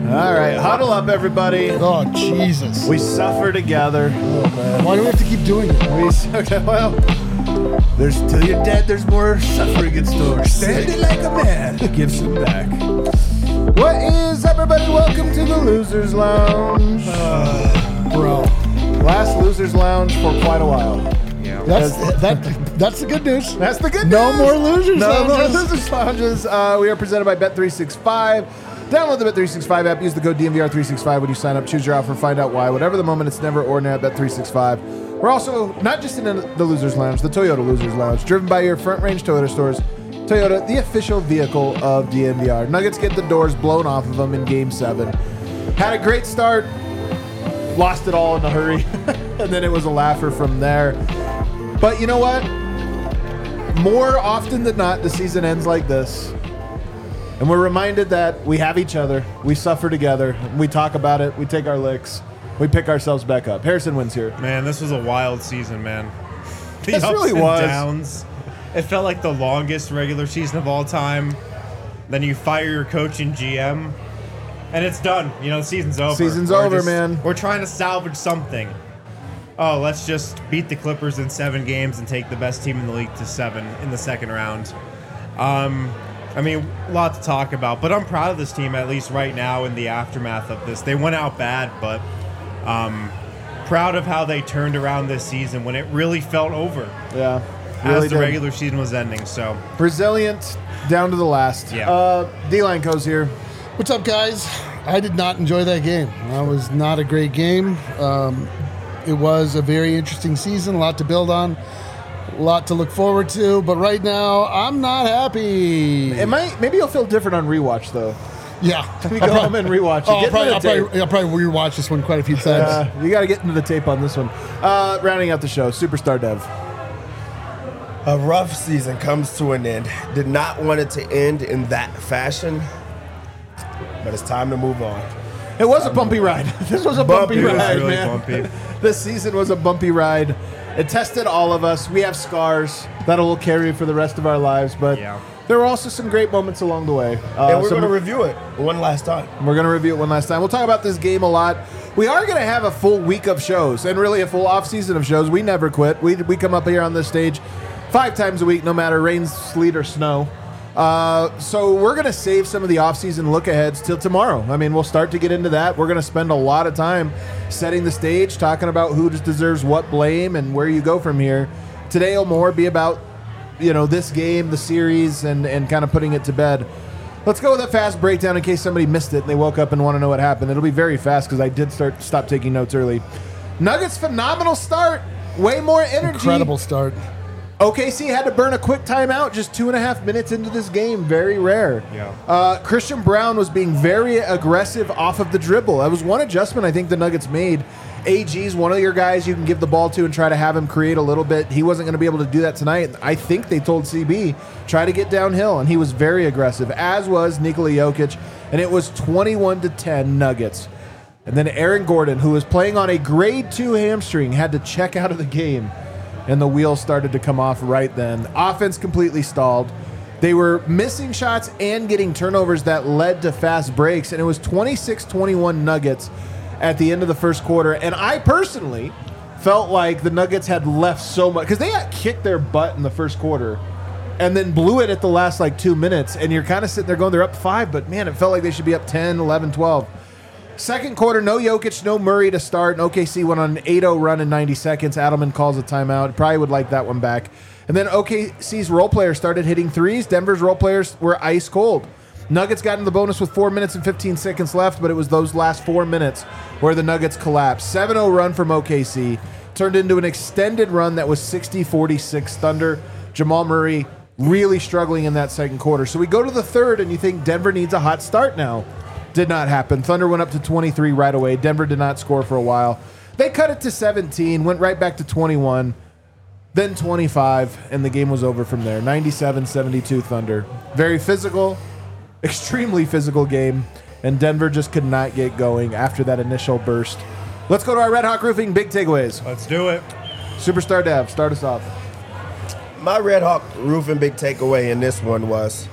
All right, huddle up, everybody. Oh, Jesus. We suffer together. Why do we have to keep doing it? Okay, well, there's till you're dead. There's more suffering in store. Standing like a man, give some back. What is up, everybody? Welcome to the Losers Lounge, Bro. Last Losers Lounge for quite a while. Yeah. That's the good news. That's the good No news. more Losers No more Lounges. Losers Lounges. We are presented by Bet365. Download the Bet365 app. Use the code DMVR365 when you sign up. Choose your offer. Find out why. Whatever the moment, it's never ordinary at Bet365. We're also not just in the Losers Lounge, the Toyota Losers Lounge, driven by your Front Range Toyota stores. Toyota, the official vehicle of DMVR. Nuggets get the doors blown off of them in Game 7. Had a great start. Lost it all in a hurry. And then it was a laugher from there. But you know what? More often than not, the season ends like this. And we're reminded that we have each other. We suffer together. We talk about it. We take our licks. We pick ourselves back up. Harrison wins here. Man, this was a wild season, man. The This ups really and was. downs. It felt like the longest regular season of all time. Then you fire your coach and GM, and it's done. You know, the season's over. Season's We're over, man. We're trying to salvage something. Oh, let's just beat the Clippers in 7 games and take the best team in the league to 7 in the second round. I mean, a lot to talk about, but I'm proud of this team, at least right now in the aftermath of this. They went out bad, but proud of how they turned around this season when it really felt over Yeah. as Really the did. regular season was ending. So, Resilient down to the last. Yeah. D-Line Co's here. What's up, guys? I did not enjoy that game. That was not a great game. It was a very interesting season, a lot to build on, a lot to look forward to. But right now, I'm not happy. Maybe you'll feel different on rewatch, though. Yeah. We go home and rewatch it. Oh, Get into the tape. I'll probably rewatch this one quite a few times. You got to get into the tape on this one. Rounding out the show, Superstar Dev. A rough season comes to an end. Did not want it to end in that fashion, but it's time to move on. It was a bumpy ride. This was a bumpy it was ride, really man. bumpy. This season was a bumpy ride. It tested all of us. We have scars that will carry for the rest of our lives, but Yeah. there were also some great moments along the way. And we're going to review it one last time. We're going to review it one last time. We'll talk about this game a lot. We are going to have a full week of shows and really a full off-season of shows. We never quit. We come up here on this stage 5 times a week, no matter rain, sleet, or snow. So we're going to save some of the off-season look-aheads till tomorrow. I mean, we'll start to get into that. We're going to spend a lot of time setting the stage, talking about who just deserves what blame and where you go from here. Today will more be about, this game, the series, and kind of putting it to bed. Let's go with a fast breakdown in case somebody missed it and they woke up and want to know what happened. It'll be very fast because I did stop taking notes early. Nuggets, phenomenal start. Way more energy. Incredible start. OKC had to burn a quick timeout just 2.5 minutes into this game. Very rare. Yeah. Christian Brown was being very aggressive off of the dribble. That was one adjustment I think the Nuggets made. AG's one of your guys you can give the ball to and try to have him create a little bit. He wasn't going to be able to do that tonight. I think they told CB, try to get downhill, and he was very aggressive, as was Nikola Jokic, and it was 21-10 Nuggets. And then Aaron Gordon, who was playing on a grade 2 hamstring, had to check out of the game. And the wheels started to come off right then. Offense completely stalled. They were missing shots and getting turnovers that led to fast breaks, and it was 26-21 Nuggets at the end of the first quarter. And I personally felt like the Nuggets had left so much, because they got kicked their butt in the first quarter and then blew it at the last 2 minutes, and you're kind of sitting there going, they're up 5, but man, it felt like they should be up 10, 11, 12. Second quarter, no Jokic, no Murray to start, and OKC went on an 8-0 run in 90 seconds. Adelman calls a timeout. Probably would like that one back. And then OKC's role players started hitting threes. Denver's role players were ice cold. Nuggets got in the bonus with 4 minutes and 15 seconds left, but it was those last 4 minutes where the Nuggets collapsed. 7-0 run from OKC turned into an extended run that was 60-46 Thunder. Jamal Murray really struggling in that second quarter. So we go to the third, and you think Denver needs a hot start now. Did not happen. Thunder went up to 23 right away. Denver did not score for a while. They cut it to 17, went right back to 21, then 25, and the game was over from there. 97-72 Thunder. Very physical, extremely physical game, and Denver just could not get going after that initial burst. Let's go to our Red Hawk Roofing big takeaways. Let's do it. Superstar Dev, start us off. My Red Hawk Roofing big takeaway in this one was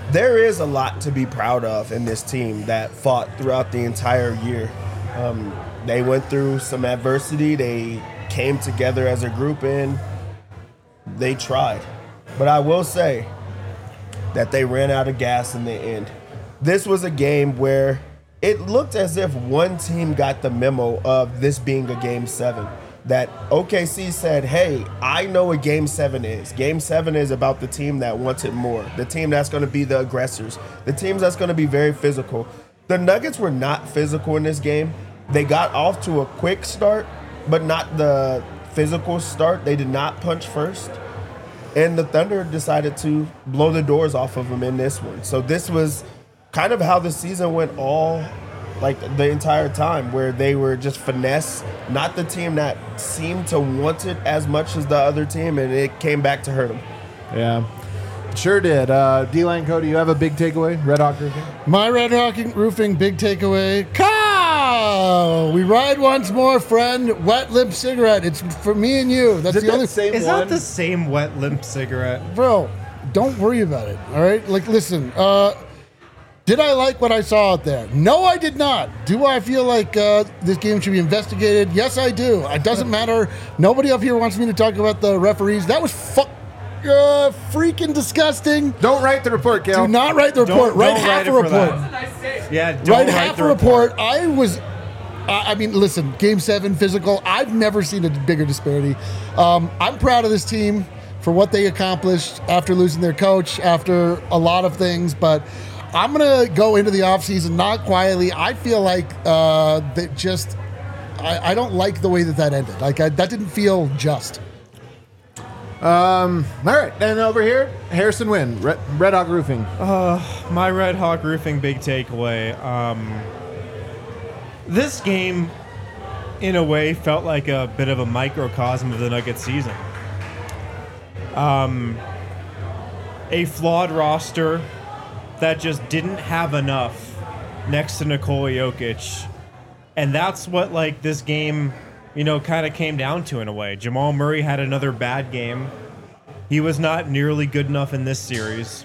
there is a lot to be proud of in this team that fought throughout the entire year. They went through some adversity. They came together as a group and they tried. But I will say that they ran out of gas in the end. This was a game where it looked as if one team got the memo of this being a Game 7. That OKC said, hey, I know what Game 7 is. Game 7 is about the team that wants it more, the team that's going to be the aggressors, the team that's going to be very physical. The Nuggets were not physical in this game. They got off to a quick start, but not the physical start. They did not punch first. And the Thunder decided to blow the doors off of them in this one. So this was kind of how the season went all like the entire time, where they were just finesse, not the team that seemed to want it as much as the other team, and it came back to hurt them. Yeah, sure did. D-Line Cody, you have a big takeaway? Red Hawk Roofing? My Red Hawk Roofing big takeaway. Cow! We ride once more, friend. Wet lip cigarette. It's for me and you. That's the only same Is one? that the same wet limp cigarette? Bro, don't worry about it. All right? Like, listen, did I like what I saw out there? No, I did not. Do I feel like this game should be investigated? Yes, I do. It doesn't matter. Nobody up here wants me to talk about the referees. That was freaking disgusting. Don't write the report, Cal. Do not write the report. Don't Write half write a it for report. that. Yeah, don't Write write half the a report. I mean, listen, Game 7 physical. I've never seen a bigger disparity. I'm proud of this team for what they accomplished after losing their coach, after a lot of things, but I'm going to go into the offseason not quietly. I feel like that just I don't like the way that ended. Like, that didn't feel just. All right, and over here, Harrison Wynn, Red Hawk Roofing. My Red Hawk Roofing big takeaway. This game, in a way, felt like a bit of a microcosm of the Nuggets season. A flawed roster that just didn't have enough next to Nikola Jokic. And that's what, like, this game, kind of came down to in a way. Jamal Murray had another bad game. He was not nearly good enough in this series.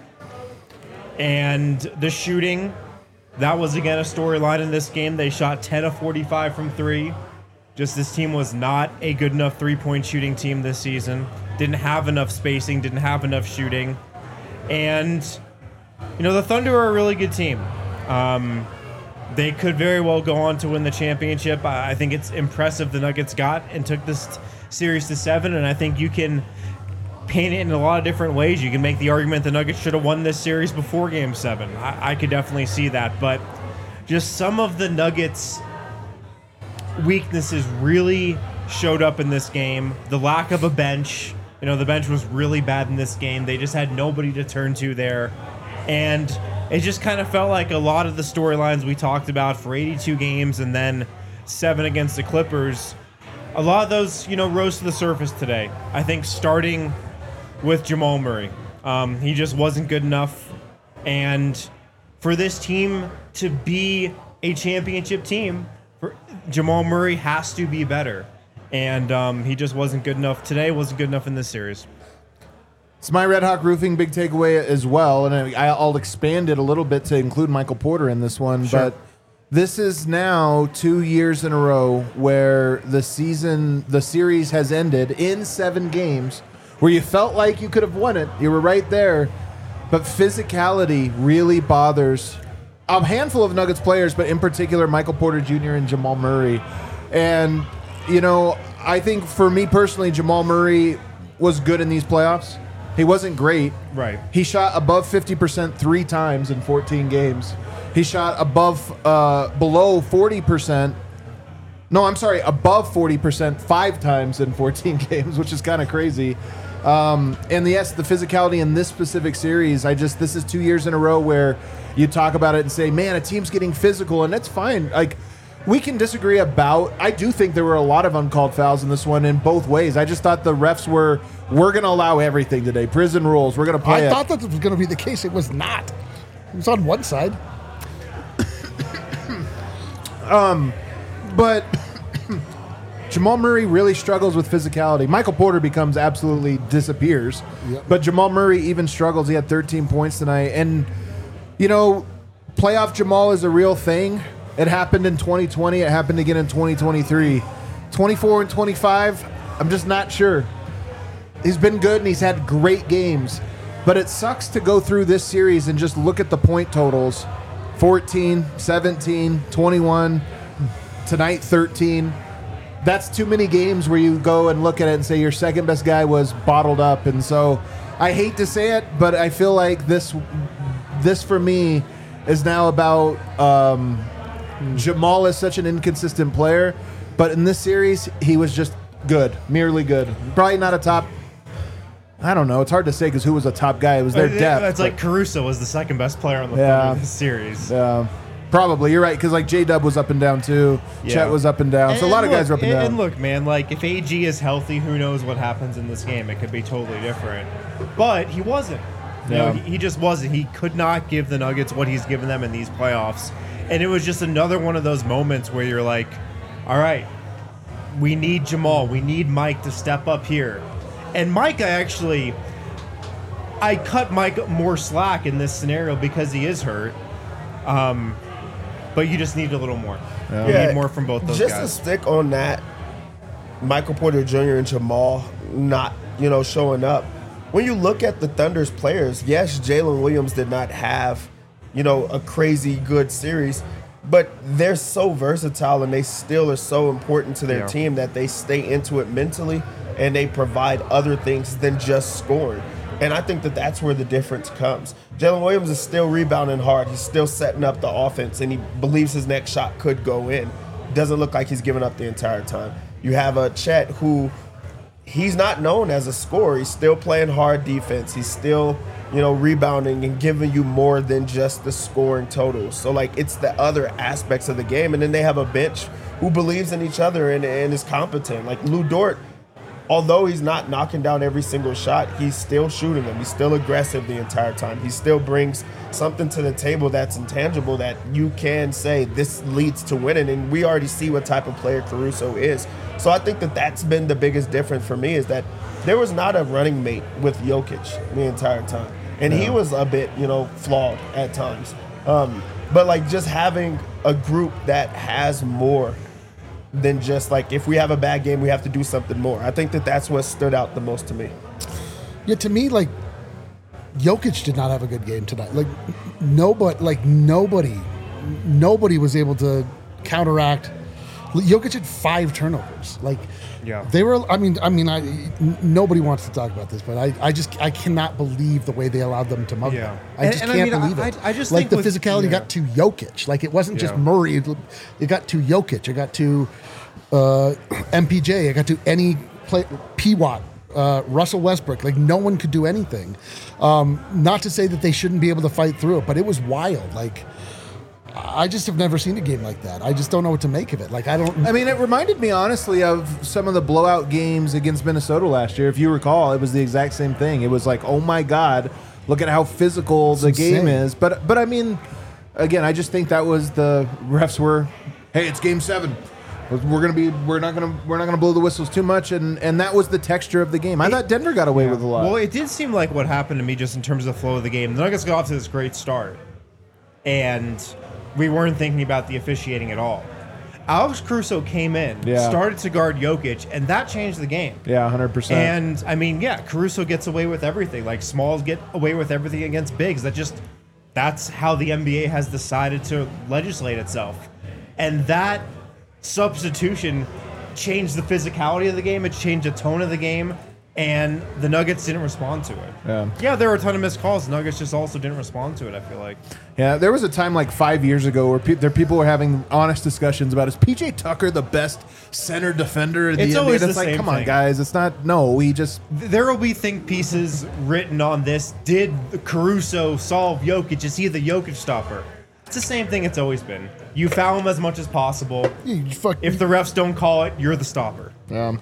And the shooting, that was, again, a storyline in this game. They shot 10 of 45 from three. Just this team was not a good enough three-point shooting team this season. Didn't have enough spacing, didn't have enough shooting. And, the Thunder are a really good team. They could very well go on to win the championship. I think it's impressive the Nuggets got and took this series to 7, and I think you can paint it in a lot of different ways. You can make the argument the Nuggets should have won this series before Game 7. I could definitely see that, but just some of the Nuggets' weaknesses really showed up in this game. The lack of a bench. The bench was really bad in this game. They just had nobody to turn to there. And it just kind of felt like a lot of the storylines we talked about for 82 games and then 7 against the Clippers, a lot of those, rose to the surface today. I think starting with Jamal Murray. He just wasn't good enough. And for this team to be a championship team, Jamal Murray has to be better. And he just wasn't good enough today, wasn't good enough in this series. It's my Red Hawk Roofing big takeaway as well, and I'll expand it a little bit to include Michael Porter in this one. Sure. But this is now 2 years in a row where the series has ended in 7 games, where you felt like you could have won it. You were right there, but physicality really bothers a handful of Nuggets players, but in particular Michael Porter Jr. and Jamal Murray. And I think for me personally, Jamal Murray was good in these playoffs. He wasn't great. Right. He shot above 50% 3 times in 14 games. He shot below 40%. No, I'm sorry, above 40% 5 times in 14 games, which is kind of crazy. And yes, the physicality in this specific series, this is 2 years in a row where you talk about it and say, man, a team's getting physical, and that's fine. Like, we can disagree about. I do think there were a lot of uncalled fouls in this one in both ways. I just thought the refs we're going to allow everything today. Prison rules. We're going to play I thought that was going to be the case. It was not. It was on one side. But Jamal Murray really struggles with physicality. Michael Porter disappears. Yep. But Jamal Murray even struggles. He had 13 points tonight. And you know, playoff Jamal is a real thing. It happened in 2020. It happened again in 2023. 24 and 25, I'm just not sure. He's been good and he's had great games. But it sucks to go through this series and just look at the point totals. 14, 17, 21, tonight 13. That's too many games where you go and look at it and say your second best guy was bottled up. And so I hate to say it, but I feel like this for me is now about Jamal is such an inconsistent player. But in this series, he was just good, merely good. Probably not a top. I don't know. It's hard to say because who was a top guy? It was their depth. It's like Caruso was the second best player on the Thunder this series. Yeah, probably. You're right because like J-Dub was up and down too. Yeah. Chet was up and down. So a lot of guys were up and down. And look, man, like if AG is healthy, who knows what happens in this game? It could be totally different. But he wasn't. You know, he just wasn't. He could not give the Nuggets what he's given them in these playoffs. And it was just another one of those moments where you're like, all right, we need Jamal. We need Mike to step up here. And Mike, I cut Mike more slack in this scenario because he is hurt. But you just need a little more. Yeah. You need more from both those guys. Just to stick on that, Michael Porter Jr. and Jamal not, showing up. When you look at the Thunder's players, yes, Jalen Williams did not have, a crazy good series, but they're so versatile and they still are so important to their team that they stay into it mentally and they provide other things than just scoring. And I think that that's where the difference comes. Jalen Williams is still rebounding hard. He's still setting up the offense, and he believes his next shot could go in. Doesn't look like he's giving up the entire time. You have a Chet who he's not known as a scorer. He's still playing hard defense. He's still, rebounding and giving you more than just the scoring totals. So, it's the other aspects of the game. And then they have a bench who believes in each other and is competent. Like Lou Dort, although he's not knocking down every single shot, he's still shooting them. He's still aggressive the entire time. He still brings something to the table that's intangible that you can say this leads to winning. And we already see what type of player Caruso is. So I think that that's been the biggest difference for me is that there was not a running mate with Jokic the entire time. And he was a bit, flawed at times. But just having a group that has more than just if we have a bad game, we have to do something more. I think that that's what stood out the most to me. Yeah, to me, Jokic did not have a good game tonight. Nobody was able to counteract. Jokic had 5 turnovers. They were. Nobody wants to talk about this, but I cannot believe the way they allowed them to mug them. I just can't believe it. I just think the physicality got to Jokic. It wasn't just Murray. It got to Jokic. It got to MPJ. It got to any play. P-Watt. Russell Westbrook. No one could do anything. Not to say that they shouldn't be able to fight through it, but it was wild. I just have never seen a game like that. I just don't know what to make of it. It reminded me honestly of some of the blowout games against Minnesota last year. If you recall, it was the exact same thing. It was oh my God, look at how physical the game is. But again, I just think that was the refs were, hey, it's game 7. We're not gonna blow the whistles too much, and that was the texture of the game. I thought Denver got away with a lot. Well, it did seem like what happened to me just in terms of the flow of the game. The Nuggets got off to this great start, and we weren't thinking about the officiating at all. Alex Caruso came in, started to guard Jokic, and that changed the game. Yeah, 100%. And, Caruso gets away with everything. Smalls get away with everything against bigs. That's how the NBA has decided to legislate itself. And that substitution changed the physicality of the game. It changed the tone of the game. And the Nuggets didn't respond to it. Yeah, there were a ton of missed calls. The Nuggets just also didn't respond to it, I feel like. Yeah, there was a time 5 years ago where people were having honest discussions about, is PJ Tucker the best center defender of the NBA? It's always the same same come thing. on, guys. It's not, no, we just... There will be think pieces written on this. Did Caruso solve Jokic? Is he the Jokic stopper? It's the same thing it's always been. You foul him as much as possible. If the refs don't call it, you're the stopper.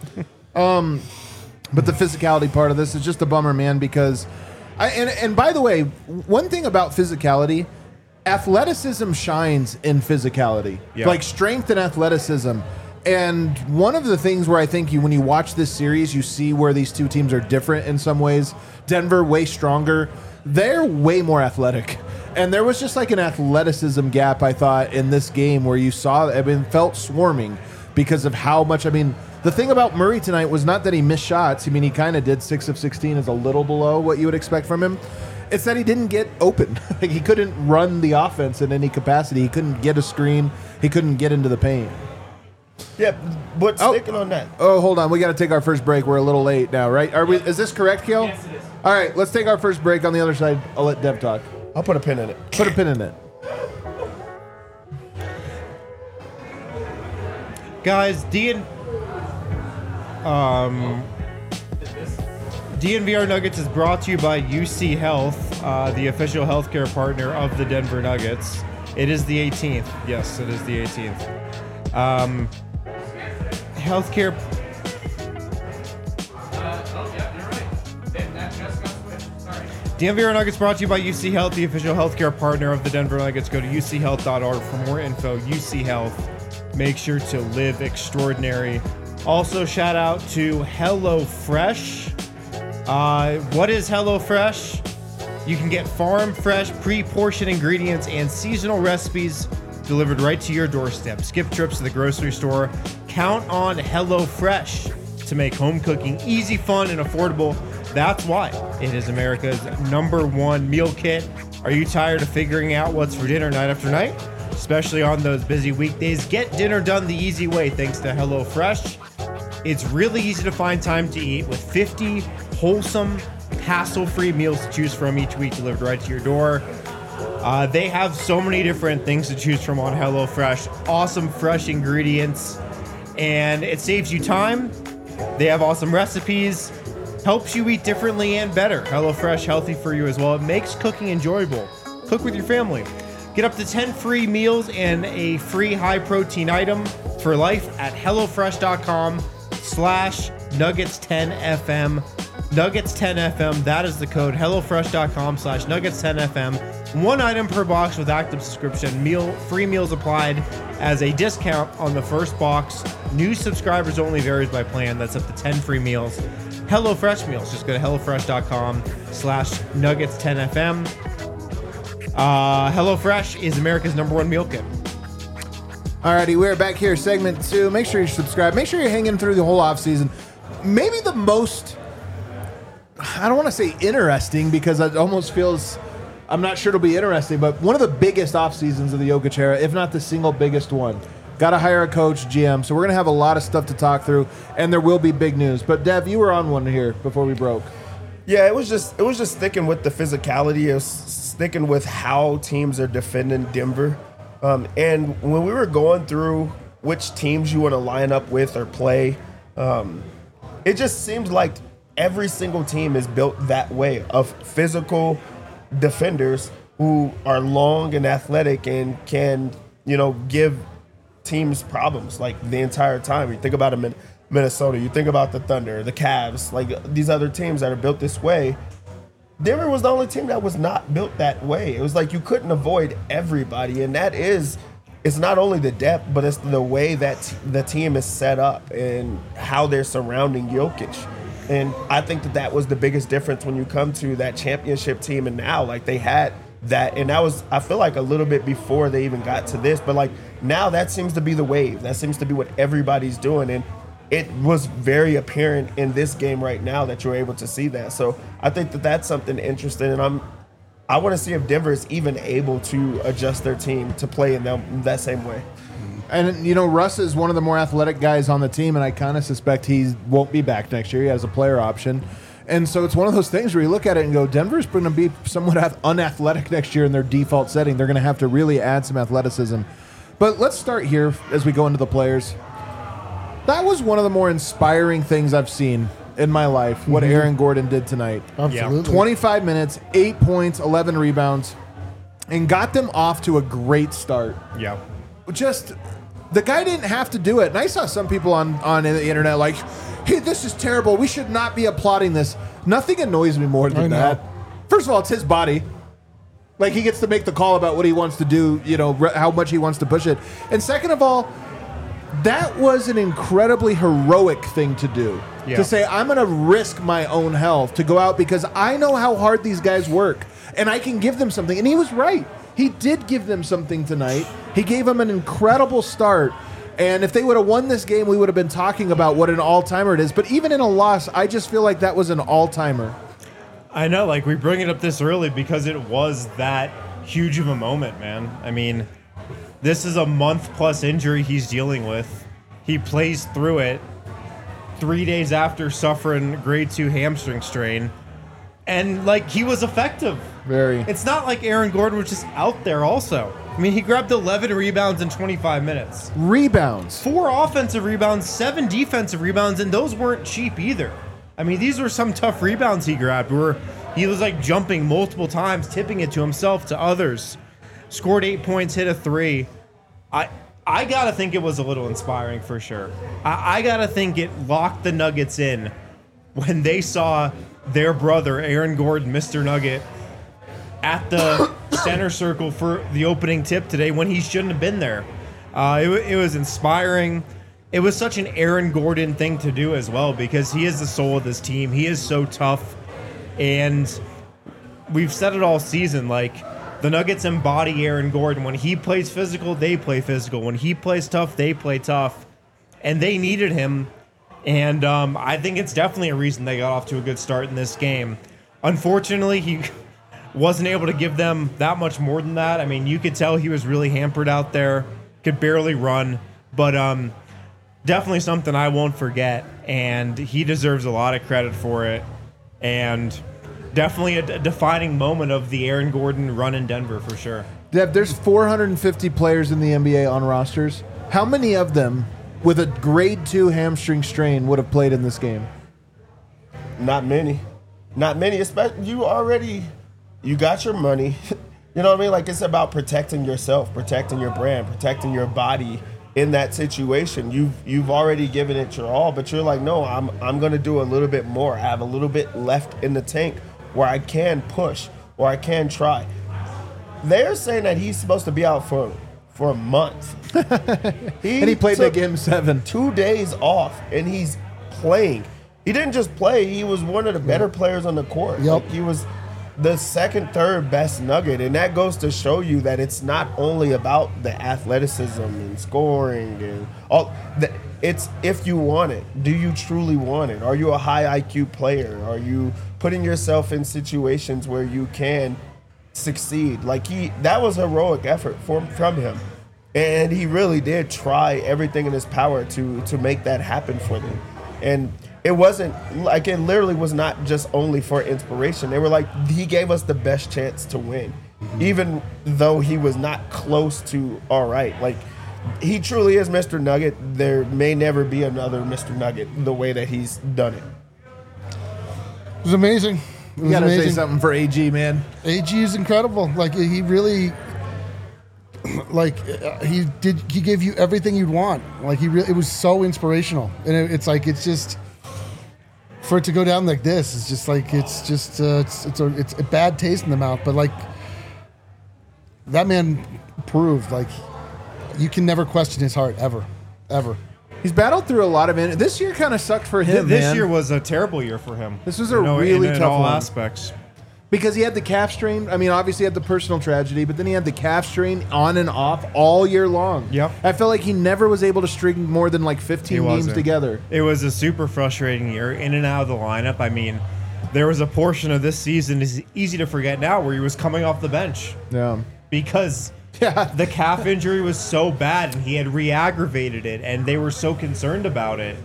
But the physicality part of this is just a bummer, man, because... And by the way, one thing about physicality, athleticism shines in physicality. Yeah. Strength and athleticism. And one of the things where I think when you watch this series, you see where these two teams are different in some ways. Denver, way stronger. They're way more athletic. And there was just like an athleticism gap, I thought, in this game where you saw, felt swarming because of how much, the thing about Murray tonight was not that he missed shots. He kind of did 6 of 16 is a little below what you would expect from him. It's that he didn't get open. Like he couldn't run the offense in any capacity. He couldn't get a screen. He couldn't get into the paint. Yeah, but sticking on that. Oh, hold on. We got to take our first break. We're a little late now, right? Are we? Is this correct, Kale? Yes, it is. All right, let's take our first break. On the other side, I'll let Dev talk. I'll put a pin in it. Put a pin in it. Guys, DNVR Nuggets is brought to you by UC Health, the official healthcare partner of the Denver Nuggets. It is the 18th. Yes, it is the 18th. Healthcare. DNVR Nuggets brought to you by UC Health, the official healthcare partner of the Denver Nuggets. Go to uchealth.org for more info. UC Health. Make sure to live extraordinary. Also, shout out to HelloFresh. What is HelloFresh? You can get farm fresh, pre-portioned ingredients and seasonal recipes delivered right to your doorstep. Skip trips to the grocery store. Count on HelloFresh to make home cooking easy, fun, and affordable. That's why it is America's #1 meal kit. Are you tired of figuring out what's for dinner night after night? Especially on those busy weekdays, get dinner done the easy way thanks to HelloFresh. It's really easy to find time to eat with 50 wholesome, hassle-free meals to choose from each week delivered right to your door. They have so many different things to choose from on HelloFresh. Awesome, fresh ingredients, and it saves you time. They have awesome recipes, helps you eat differently and better. HelloFresh, healthy for you as well. It makes cooking enjoyable. Cook with your family. Get up to 10 free meals and a free high-protein item for life at HelloFresh.com/Nuggets10FM. Nuggets10FM, that is the code. HelloFresh.com/Nuggets10FM. One item per box with active subscription. Free meals applied as a discount on the first box. New subscribers only, varies by plan. That's up to 10 free meals. HelloFresh meals. Just go to HelloFresh.com/Nuggets10FM. HelloFresh is America's #1 meal kit. Alrighty, we're back here, segment 2. Make sure you subscribe. Make sure you're hanging through the whole offseason. Maybe the most, I don't want to say interesting because it almost feels, I'm not sure it'll be interesting, but one of the biggest off seasons of the Jokic era, if not the single biggest one. Got to hire a coach, GM. So we're going to have a lot of stuff to talk through, and there will be big news. But Dev, you were on one here before we broke. Yeah, it was just sticking with the physicality. It was sticking with how teams are defending Denver. And when we were going through which teams you want to line up with or play, it just seems like every single team is built that way, of physical defenders who are long and athletic and can, give teams problems like the entire time. You think about Minnesota, you think about the Thunder, the Cavs, like these other teams that are built this way. Denver was the only team that was not built that way. It was like you couldn't avoid everybody, and it's not only the depth, but it's the way that the team is set up and how they're surrounding Jokic. And I think that was the biggest difference when you come to that championship team, and now like they had that, and that was, I feel like, a little bit before they even got to this, but like now that seems to be the wave. That seems to be what everybody's doing, and it was very apparent in this game right now that you're able to see that. So I think that's something interesting, and I want to see if Denver is even able to adjust their team to play in that same way. And, Russ is one of the more athletic guys on the team, and I kind of suspect he won't be back next year. He has a player option. And so it's one of those things where you look at it and go, Denver's going to be somewhat unathletic next year in their default setting. They're going to have to really add some athleticism. But let's start here as we go into the players. That was one of the more inspiring things I've seen in my life, what Aaron Gordon did tonight. Absolutely. 25 minutes, 8 points, 11 rebounds, and got them off to a great start. Yeah. Just, the guy didn't have to do it. And I saw some people on the internet like, hey, this is terrible. We should not be applauding this. Nothing annoys me more than that. First of all, it's his body. Like, he gets to make the call about what he wants to do, how much he wants to push it. And second of all, that was an incredibly heroic thing to do. Yeah. To say, I'm going to risk my own health to go out because I know how hard these guys work. and I can give them something. And he was right. He did give them something tonight. He gave them an incredible start. And if they would have won this game, we would have been talking about what an all-timer it is. But even in a loss, I just feel like that was an all-timer. I know, like, we bring it up this early because it was that huge of a moment, man. I mean, this is a month-plus injury he's dealing with. He plays through it 3 days after suffering grade 2 hamstring strain. And, like, he was effective. Very. It's not like Aaron Gordon was just out there also. I mean, he grabbed 11 rebounds in 25 minutes. Rebounds. 4 offensive rebounds, 7 defensive rebounds, and those weren't cheap either. I mean, these were some tough rebounds he grabbed where he was, like, jumping multiple times, tipping it to himself, to others. Scored 8 points, hit a 3. I got to think it was a little inspiring for sure. I got to think it locked the Nuggets in when they saw their brother, Aaron Gordon, Mr. Nugget, at the center circle for the opening tip today when he shouldn't have been there. It was inspiring. It was such an Aaron Gordon thing to do as well because he is the soul of this team. He is so tough. And we've said it all season, like, the Nuggets embody Aaron Gordon. When he plays physical, they play physical. When he plays tough, they play tough. And they needed him. And I think it's definitely a reason they got off to a good start in this game. Unfortunately, he wasn't able to give them that much more than that. I mean, you could tell he was really hampered out there, could barely run. But definitely something I won't forget. And he deserves a lot of credit for it. And definitely a defining moment of the Aaron Gordon run in Denver for sure. Dev, there's 450 players in the NBA on rosters. How many of them with a grade 2 hamstring strain would have played in this game? Not many. Not many. Especially you got your money. You know what I mean? Like, it's about protecting yourself, protecting your brand, protecting your body in that situation. You've already given it your all, but you're like, no, I'm going to do a little bit more. I have a little bit left in the tank where I can push or I can try. They're saying that he's supposed to be out for a month. And he played that game 7. 2 days off, and he's playing. He didn't just play. He was one of the better players on the court. Yep. Like, he was the second, third best Nugget, and that goes to show you that it's not only about the athleticism and scoring and all. It's if you want it. Do you truly want it? Are you a high IQ player? Are you putting yourself in situations where you can succeed? Like, that was heroic effort from him, and he really did try everything in his power to make that happen for them. And it wasn't like, it literally was not just only for inspiration. They were like, he gave us the best chance to win, even though he was not close to all right. Like, he truly is Mr. Nugget. There may never be another Mr. Nugget the way that he's done it. It was amazing. It was You got to say amazing. something for AG, man. AG is incredible. Like, he really, like, he gave you everything you'd want. Like, it was so inspirational. And it's like, it's just, for it to go down like this, it's just like, it's a bad taste in the mouth. But, like, that man proved, like, you can never question his heart, ever. He's battled through a lot of it. This year kind of sucked for him, This man. year was a terrible year for him. This was a really in tough all one. aspects. Because he had the calf strain. I mean, obviously he had the personal tragedy, but then he had the calf strain on and off all year long. Yep. I felt like he never was able to string more than like 15 He games wasn't. together. It was a super frustrating year, in and out of the lineup. I mean, there was a portion of this season, it's easy to forget now, where he was coming off the bench Yeah. because Yeah. the calf injury was so bad and he had re-aggravated it, and they were so concerned about it.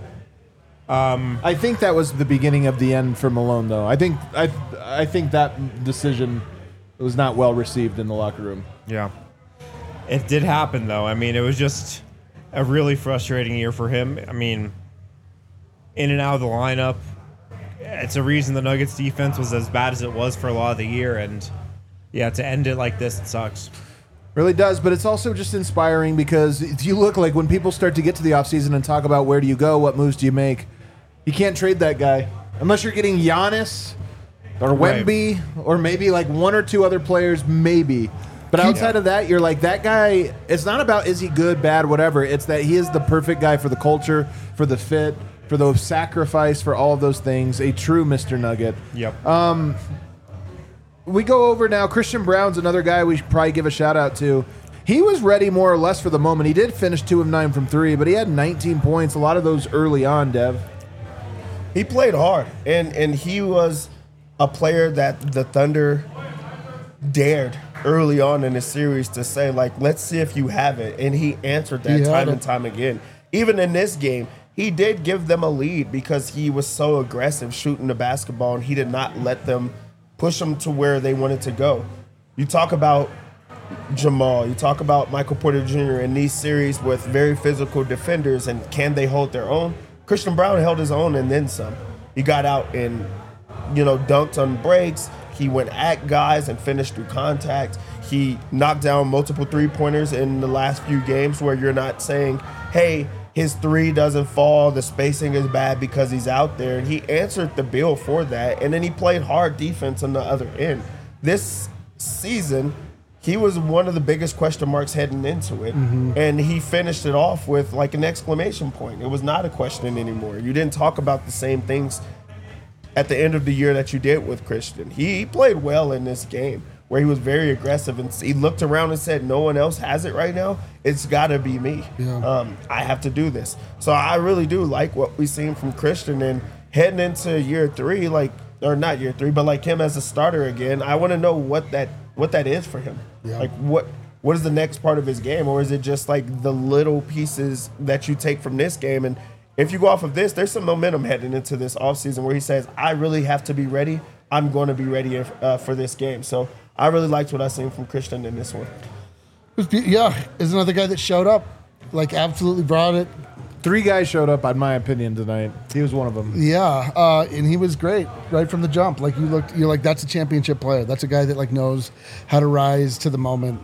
I think that was the beginning of the end for Malone, though. I think that decision was not well received in the locker room. Yeah. It did happen, though. I mean, it was just a really frustrating year for him. I mean, in and out of the lineup. It's a reason the Nuggets defense was as bad as it was for a lot of the year, and yeah, to end it like this, it sucks. Really does, but it's also just inspiring because if you look, like, when people start to get to the offseason and talk about where do you go, what moves do you make, you can't trade that guy. Unless you're getting Giannis or Wemby or maybe like one or two other players, maybe. But outside of that, you're like, that guy, it's not about is he good, bad, whatever. It's that he is the perfect guy for the culture, for the fit, for the sacrifice, for all of those things. A true Mr. Nugget. Yep. We go over now. Christian Brown's another guy we should probably give a shout out to. He was ready more or less for the moment. He did finish 2 of 9 from 3, but he had 19 points. A lot of those early on, Dev. He played hard, and he was a player that the Thunder dared early on in the series to say, like, let's see if you have it. And he answered that time and time again. Even in this game, he did give them a lead because he was so aggressive shooting the basketball, and he did not let them push them to where they wanted to go. You talk about Jamal, you talk about Michael Porter Jr. in these series with very physical defenders, and can they hold their own? Christian Brown held his own and then some. He got out and, dunked on breaks. He went at guys and finished through contact. He knocked down multiple three-pointers in the last few games where you're not saying, hey, his three doesn't fall, the spacing is bad because he's out there. And he answered the bill for that, and then he played hard defense on the other end. This season, he was one of the biggest question marks heading into it, and he finished it off with like an exclamation point. It was not a question anymore. You didn't talk about the same things at the end of the year that you did with Christian. He played well in this game where he was very aggressive, and he looked around and said, no one else has it right now. It's got to be me. Yeah. I have to do this. So I really do like what we've seen from Christian, and heading into year 3, or not year 3, but like him as a starter again, I want to know what that is for him. Yeah. Like what is the next part of his game, or is it just like the little pieces that you take from this game? And if you go off of this, there's some momentum heading into this offseason where he says, I really have to be ready. I'm going to be ready for this game. So I really liked what I seen from Christian in this one. Is another guy that showed up, absolutely brought it. 3 guys showed up, in my opinion, tonight. He was one of them. Yeah, and he was great right from the jump. You're like, that's a championship player. That's a guy that knows how to rise to the moment.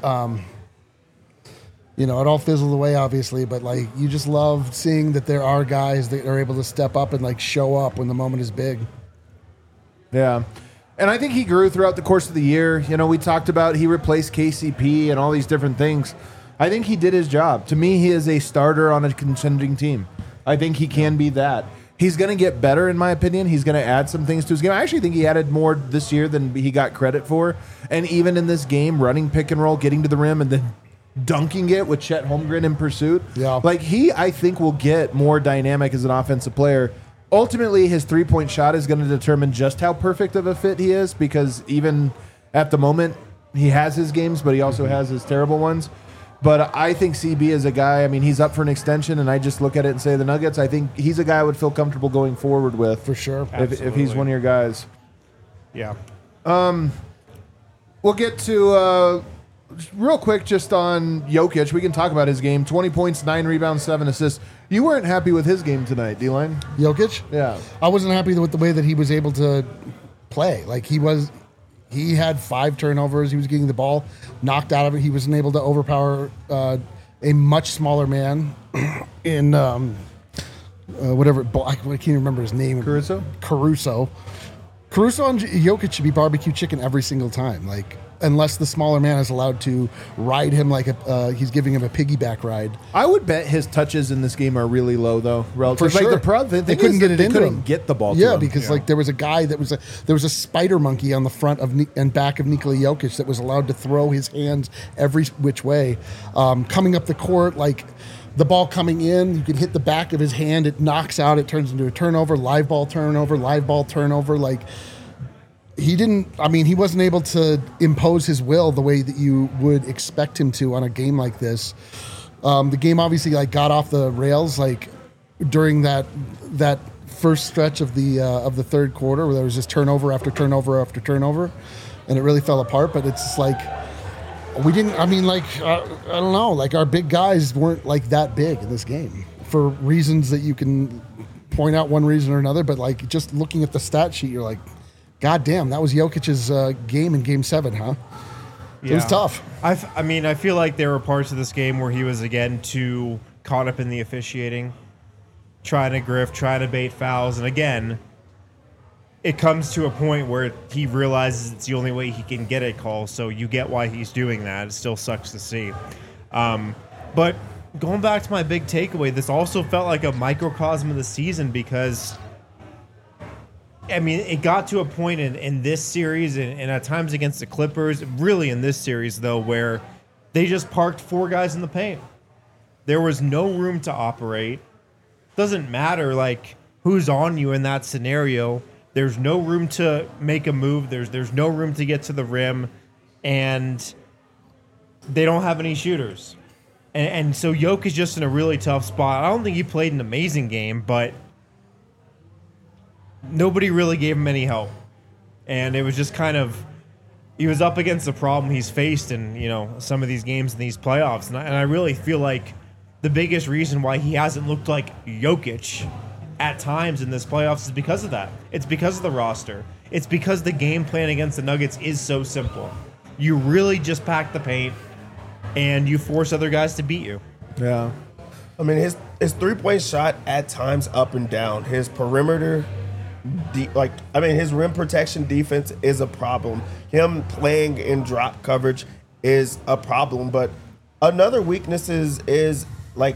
It all fizzled away, obviously, but you just love seeing that there are guys that are able to step up and show up when the moment is big. Yeah. And I think he grew throughout the course of the year. We talked about he replaced KCP and all these different things. I think he did his job. To me, he is a starter on a contending team. I think he can be that. He's going to get better, in my opinion. He's going to add some things to his game. I actually think he added more this year than he got credit for. And even in this game, running pick and roll, getting to the rim, and then dunking it with Chet Holmgren in pursuit. Yeah. I think, will get more dynamic as an offensive player. Ultimately, his three-point shot is going to determine just how perfect of a fit he is, because even at the moment, he has his games, but he also has his terrible ones. But I think CB is a guy, he's up for an extension, and I just look at it and say the Nuggets, I think he's a guy I would feel comfortable going forward with. For sure. If he's one of your guys. Yeah. We'll get to, real quick, just on Jokic. We can talk about his game. 20 points, 9 rebounds, 7 assists. You weren't happy with his game tonight, D-Line? Jokic? Yeah. I wasn't happy with the way that he was able to play. He had 5 turnovers. He was getting the ball knocked out of it. He wasn't able to overpower a much smaller man in whatever. I can't remember his name. Caruso and Jokic should be barbecue chicken every single time. Unless the smaller man is allowed to ride him he's giving him a piggyback ride. I would bet his touches in this game are really low, though. Relative. For sure. They couldn't get it into him. Get the ball to him. Because there was a guy there was a spider monkey on the front and back of Nikola Jokic that was allowed to throw his hands every which way. Coming up the court, the ball coming in, you can hit the back of his hand, it knocks out, it turns into a turnover, live ball turnover. He wasn't able to impose his will the way that you would expect him to on a game like this. The game obviously got off the rails during that first stretch of the third quarter where there was just turnover after turnover after turnover, and it really fell apart. But it's we didn't. I don't know. Our big guys weren't that big in this game for reasons that you can point out one reason or another. But just looking at the stat sheet, you're God damn, that was Jokic's game in Game 7, huh? Yeah. It was tough. I feel like there were parts of this game where he was, again, too caught up in the officiating, trying to grift, trying to bait fouls. And, again, it comes to a point where he realizes it's the only way he can get a call, so you get why he's doing that. It still sucks to see. But going back to my big takeaway, this also felt like a microcosm of the season because I mean, it got to a point in this series and at times against the Clippers, really in this series, though, where they just parked 4 guys in the paint. There was no room to operate. Doesn't matter, like, who's on you in that scenario. There's no room to make a move. There's no room to get to the rim. And they don't have any shooters. And so Jokic is just in a really tough spot. I don't think he played an amazing game, but nobody really gave him any help. And it was just kind of, he was up against the problem he's faced in, you know, some of these games in these playoffs. And I really feel like the biggest reason why he hasn't looked like Jokic at times in this playoffs is because of that. It's because of the roster. It's because the game plan against the Nuggets is so simple. You really just pack the paint and you force other guys to beat you. Yeah. I mean, his 3-point shot at times up and down. His perimeter, his rim protection defense is a problem. Him playing in drop coverage is a problem. But another weakness is like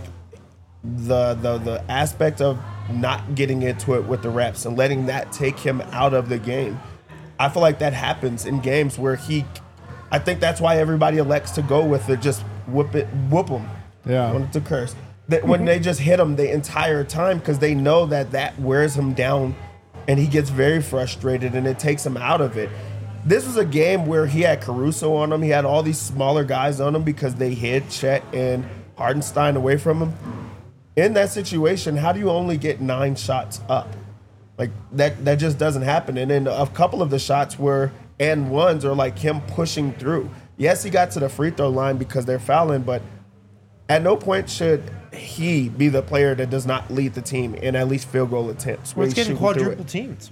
the aspect of not getting into it with the reps and letting that take him out of the game. I feel like that happens in games where I think that's why everybody elects to go with it, just whoop them. Yeah. I wanted to curse. When they just hit him the entire time because they know that wears him down and he gets very frustrated and it takes him out of it. This was a game where he had Caruso on him. He had all these smaller guys on him because they hid Chet and Hardenstein away from him. In that situation, how do you only get 9 shots up? Like, that just doesn't happen. And then a couple of the shots were and ones are like him pushing through. Yes, he got to the free throw line because they're fouling, but at no point should he be the player that does not lead the team in at least field goal attempts. Well, it's getting quadruple teamed.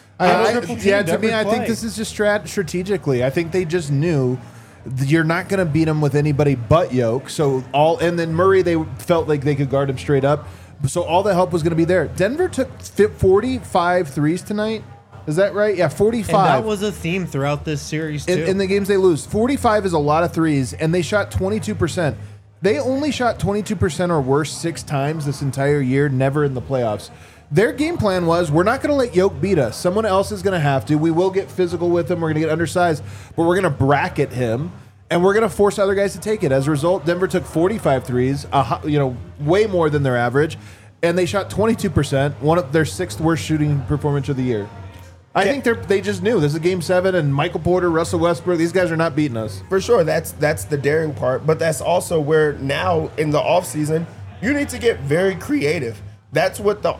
To me, I think this is just strategically. I think they just knew you're not going to beat him with anybody but Yoke. And then Murray, they felt like they could guard him straight up. So all the help was going to be there. Denver took 45 threes tonight. Is that right? Yeah, 45. And that was a theme throughout this series, too. In the games they lose. 45 is a lot of threes, and they shot 22%. They only shot 22% or worse 6 times this entire year, never in the playoffs. Their game plan was, we're not going to let Yoke beat us. Someone else is going to have to. We will get physical with him. We're going to get undersized, but we're going to bracket him, and we're going to force other guys to take it. As a result, Denver took 45 threes, way more than their average, and they shot 22%, one of their 6th worst shooting performance of the year. I think they just knew this is Game 7, and Michael Porter, Russell Westbrook, these guys are not beating us. For sure, that's the daring part, but that's also where now in the offseason, you need to get very creative. That's what you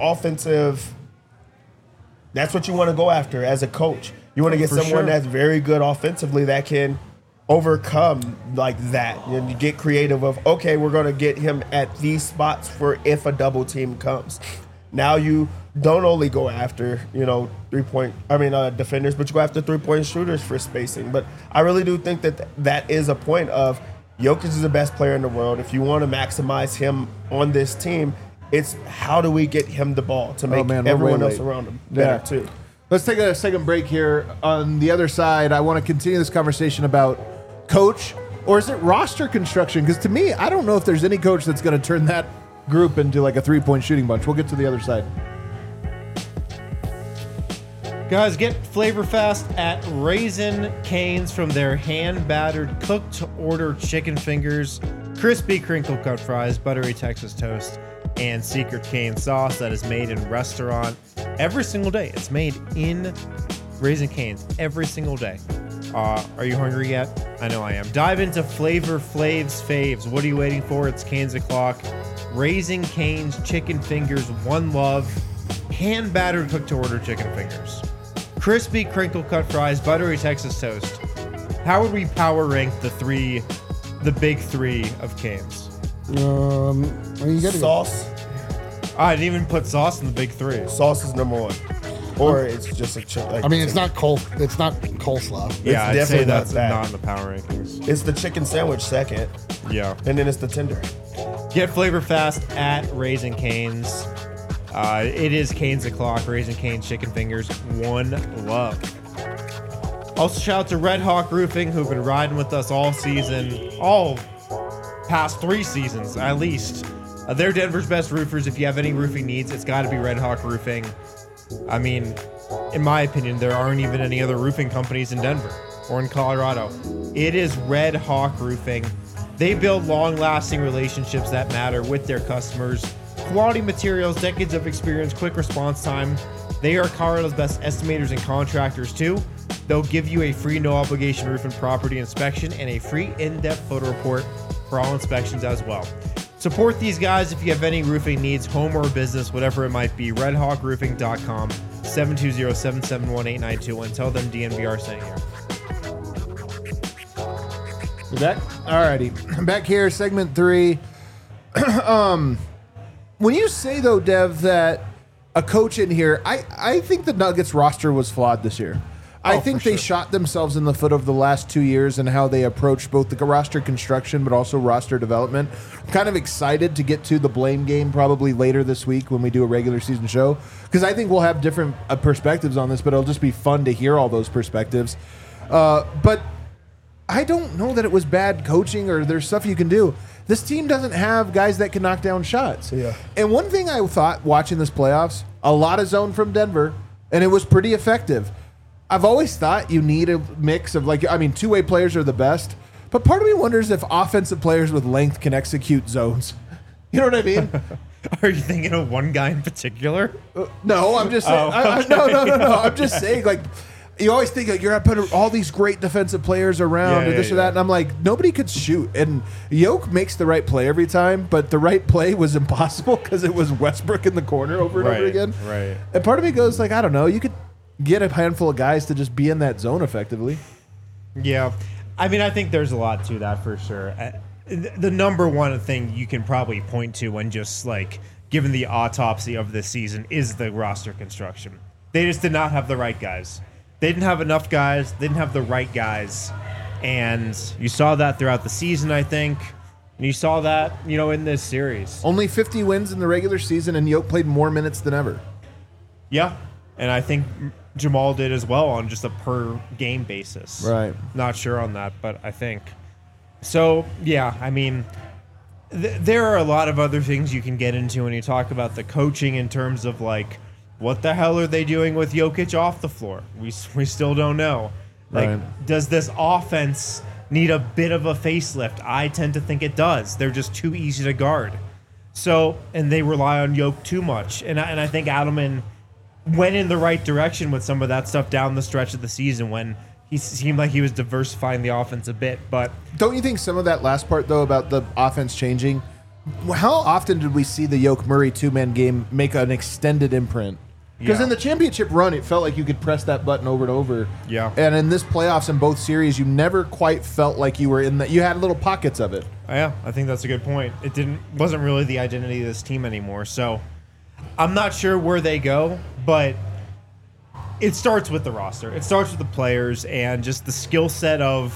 want to go after as a coach. You want to get someone that's very good offensively that can overcome like that. And you get creative of, okay, we're going to get him at these spots for if a double team comes. Now you don't only go after, defenders, but you go after 3-point shooters for spacing. But I really do think that is a point of Jokic is the best player in the world. If you want to maximize him on this team, it's how do we get him the ball to make everyone else around him better too. Let's take a second break here. On the other side, I want to continue this conversation about coach, or is it roster construction? Because to me, I don't know if there's any coach that's going to turn that group into like a 3-point shooting bunch. We'll get to the other side. Guys, get Flavor Fast at Raising Cane's from their hand-battered, cooked-to-order chicken fingers, crispy crinkle-cut fries, buttery Texas toast, and secret cane sauce that is made in restaurant every single day. It's made in Raising Cane's every single day. Are you hungry yet? I know I am. Dive into Flavor Flav's faves. What are you waiting for? It's Cane's o'clock. Raising Cane's chicken fingers, one love. Hand-battered, cooked-to-order chicken fingers. Crispy crinkle-cut fries, buttery Texas toast. How would we power rank the big 3 of Cane's? You got sauce. I didn't even put sauce in the big 3. Sauce is number 1, or it's just a chicken. It's not coleslaw. Yeah, it's I'd say definitely that's not that. not in the power rankings. It's the chicken sandwich second, Yeah. and then it's the tender. Get Flavor Fast at Raising Cane's. It is Cane's o'clock. Raising Cane's chicken fingers, one love. Also, shout out to Red Hawk Roofing, who've been riding with us all season, all past 3 seasons at least. They're Denver's best roofers. If you have any roofing needs, it's got to be Red Hawk Roofing. I mean, in my opinion, there aren't even any other roofing companies in Denver or in Colorado. It is Red Hawk Roofing. They build long-lasting relationships that matter with their customers. Quality materials, decades of experience, quick response time. They are Colorado's best estimators and contractors too. They'll give you a free no-obligation roof and property inspection and a free in-depth photo report for all inspections as well. Support these guys if you have any roofing needs, home or business, whatever it might be. RedHawkRoofing.com, 720-771-8921. Tell them DNVR sent you. You back? Alrighty. Back here, segment 3. When you say, though, Dev, that a coach in here, I think the Nuggets roster was flawed this year. I think they shot themselves in the foot over the last 2 years and how they approached both the roster construction but also roster development. I'm kind of excited to get to the blame game probably later this week when we do a regular season show, because I think we'll have different perspectives on this, but it'll just be fun to hear all those perspectives. But I don't know that it was bad coaching or there's stuff you can do. This team doesn't have guys that can knock down shots. Yeah. And one thing I thought watching this playoffs, a lot of zone from Denver, and it was pretty effective. I've always thought you need a mix of, two-way players are the best, but part of me wonders if offensive players with length can execute zones. You know what I mean? Are you thinking of one guy in particular? No, I'm just saying. No. I'm just saying, you always think you're going to put all these great defensive players around or this or that, and I'm like, nobody could shoot. And Yoke makes the right play every time, but the right play was impossible because it was Westbrook in the corner over and over again. Right. And part of me goes I don't know, you could get a handful of guys to just be in that zone effectively. Yeah. I mean, I think there's a lot to that for sure. The number one thing you can probably point to when just given the autopsy of this season is the roster construction. They just did not have the right guys. They didn't have enough guys. They didn't have the right guys. And you saw that throughout the season, I think. And you saw that, in this series. Only 50 wins in the regular season, and Yoke played more minutes than ever. Yeah. And I think Jamal did as well on just a per game basis. Right. Not sure on that, but I think. So, yeah, I mean, there are a lot of other things you can get into when you talk about the coaching in terms of what the hell are they doing with Jokic off the floor? We still don't know. Does this offense need a bit of a facelift? I tend to think it does. They're just too easy to guard. So, and they rely on Jokic too much. And I think Adelman went in the right direction with some of that stuff down the stretch of the season when he seemed like he was diversifying the offense a bit. But don't you think some of that last part, though, about the offense changing, how often did we see the Yoke-Murray two-man game make an extended imprint? Because in the championship run, it felt like you could press that button over and over. Yeah. And in this playoffs in both series, you never quite felt like you were in that. You had little pockets of it. Yeah, I think that's a good point. It wasn't really the identity of this team anymore. So I'm not sure where they go, but it starts with the roster. It starts with the players and just the skill set of,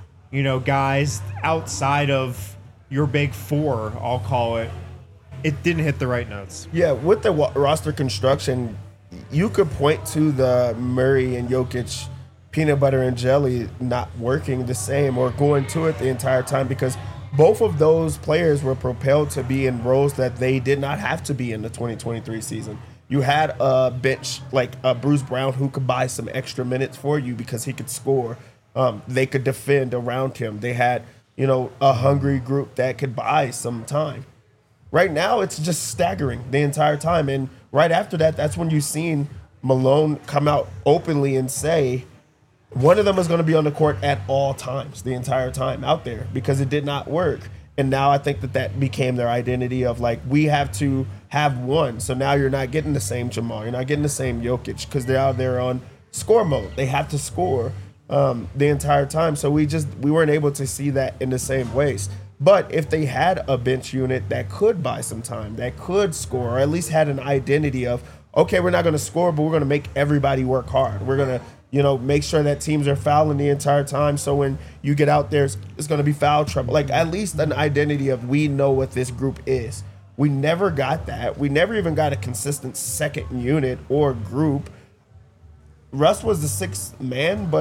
guys outside of your big four, I'll call it. It didn't hit the right notes. Yeah, with the roster construction, you could point to the Murray and Jokic peanut butter and jelly not working the same or going to it the entire time because both of those players were propelled to be in roles that they did not have to be in the 2023 season. You had a bench like Bruce Brown who could buy some extra minutes for you because he could score. They could defend around him. They had, a hungry group that could buy some time. Right now, it's just staggering the entire time. And right after that, that's when you've seen Malone come out openly and say one of them is going to be on the court at all times, the entire time out there, because it did not work. And now I think that became their identity of we have to have one. So now you're not getting the same Jamal. You're not getting the same Jokic because they're out there on score mode. They have to score the entire time. So we weren't able to see that in the same ways. But if they had a bench unit that could buy some time, that could score, or at least had an identity of, okay, we're not going to score, but we're going to make everybody work hard. We're going to, make sure that teams are fouling the entire time. So when you get out there, it's going to be foul trouble. At least an identity of we know what this group is. We never got that. We never even got a consistent second unit or group. Russ was the sixth man, but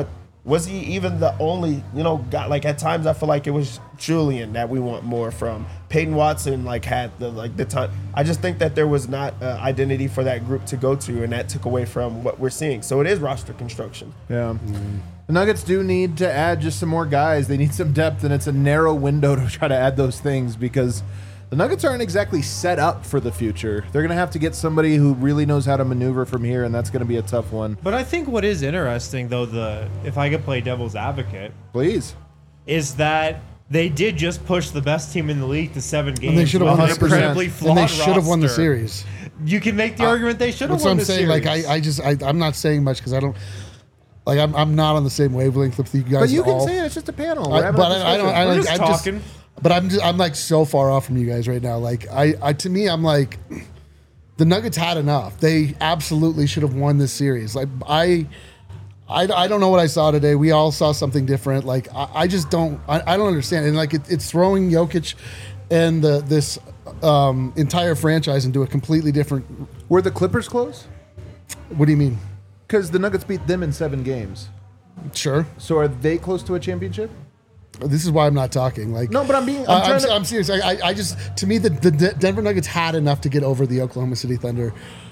Was he even the only, guy? Like at times I feel like it was Julian that we want more from. Peyton Watson had the time. I just think that there was not identity for that group to go to, and that took away from what we're seeing. So it is roster construction. Yeah. The Nuggets do need to add just some more guys. They need some depth, and it's a narrow window to try to add those things because the Nuggets aren't exactly set up for the future. They're going to have to get somebody who really knows how to maneuver from here, and that's going to be a tough one. But I think what is interesting, though, if I could play devil's advocate, Please. is that they did just push the best team in the league to 7 games. And they should have won with an incredibly flawed and they should have won the roster. series. You can make the argument they should have That's won what the I'm saying. series. Like I'm not saying much because I don't. Like I'm not on the same wavelength with you guys. But you at can all. say it. It's just a panel. I We're just I'm talking. But I'm like so far off from you guys right now. Like to me, I'm like, the Nuggets had enough. They absolutely should have won this series. Like I don't know what I saw today. We all saw something different. Like I just don't. I don't understand. And like it's throwing Jokic and this entire franchise into a completely different. Were the Clippers close? What do you mean? Because the Nuggets beat them in 7 games. Sure. So are they close to a championship? This is why I'm not talking. Like No, but I'm serious. I just to me the Denver Nuggets had enough to get over the Oklahoma City Thunder.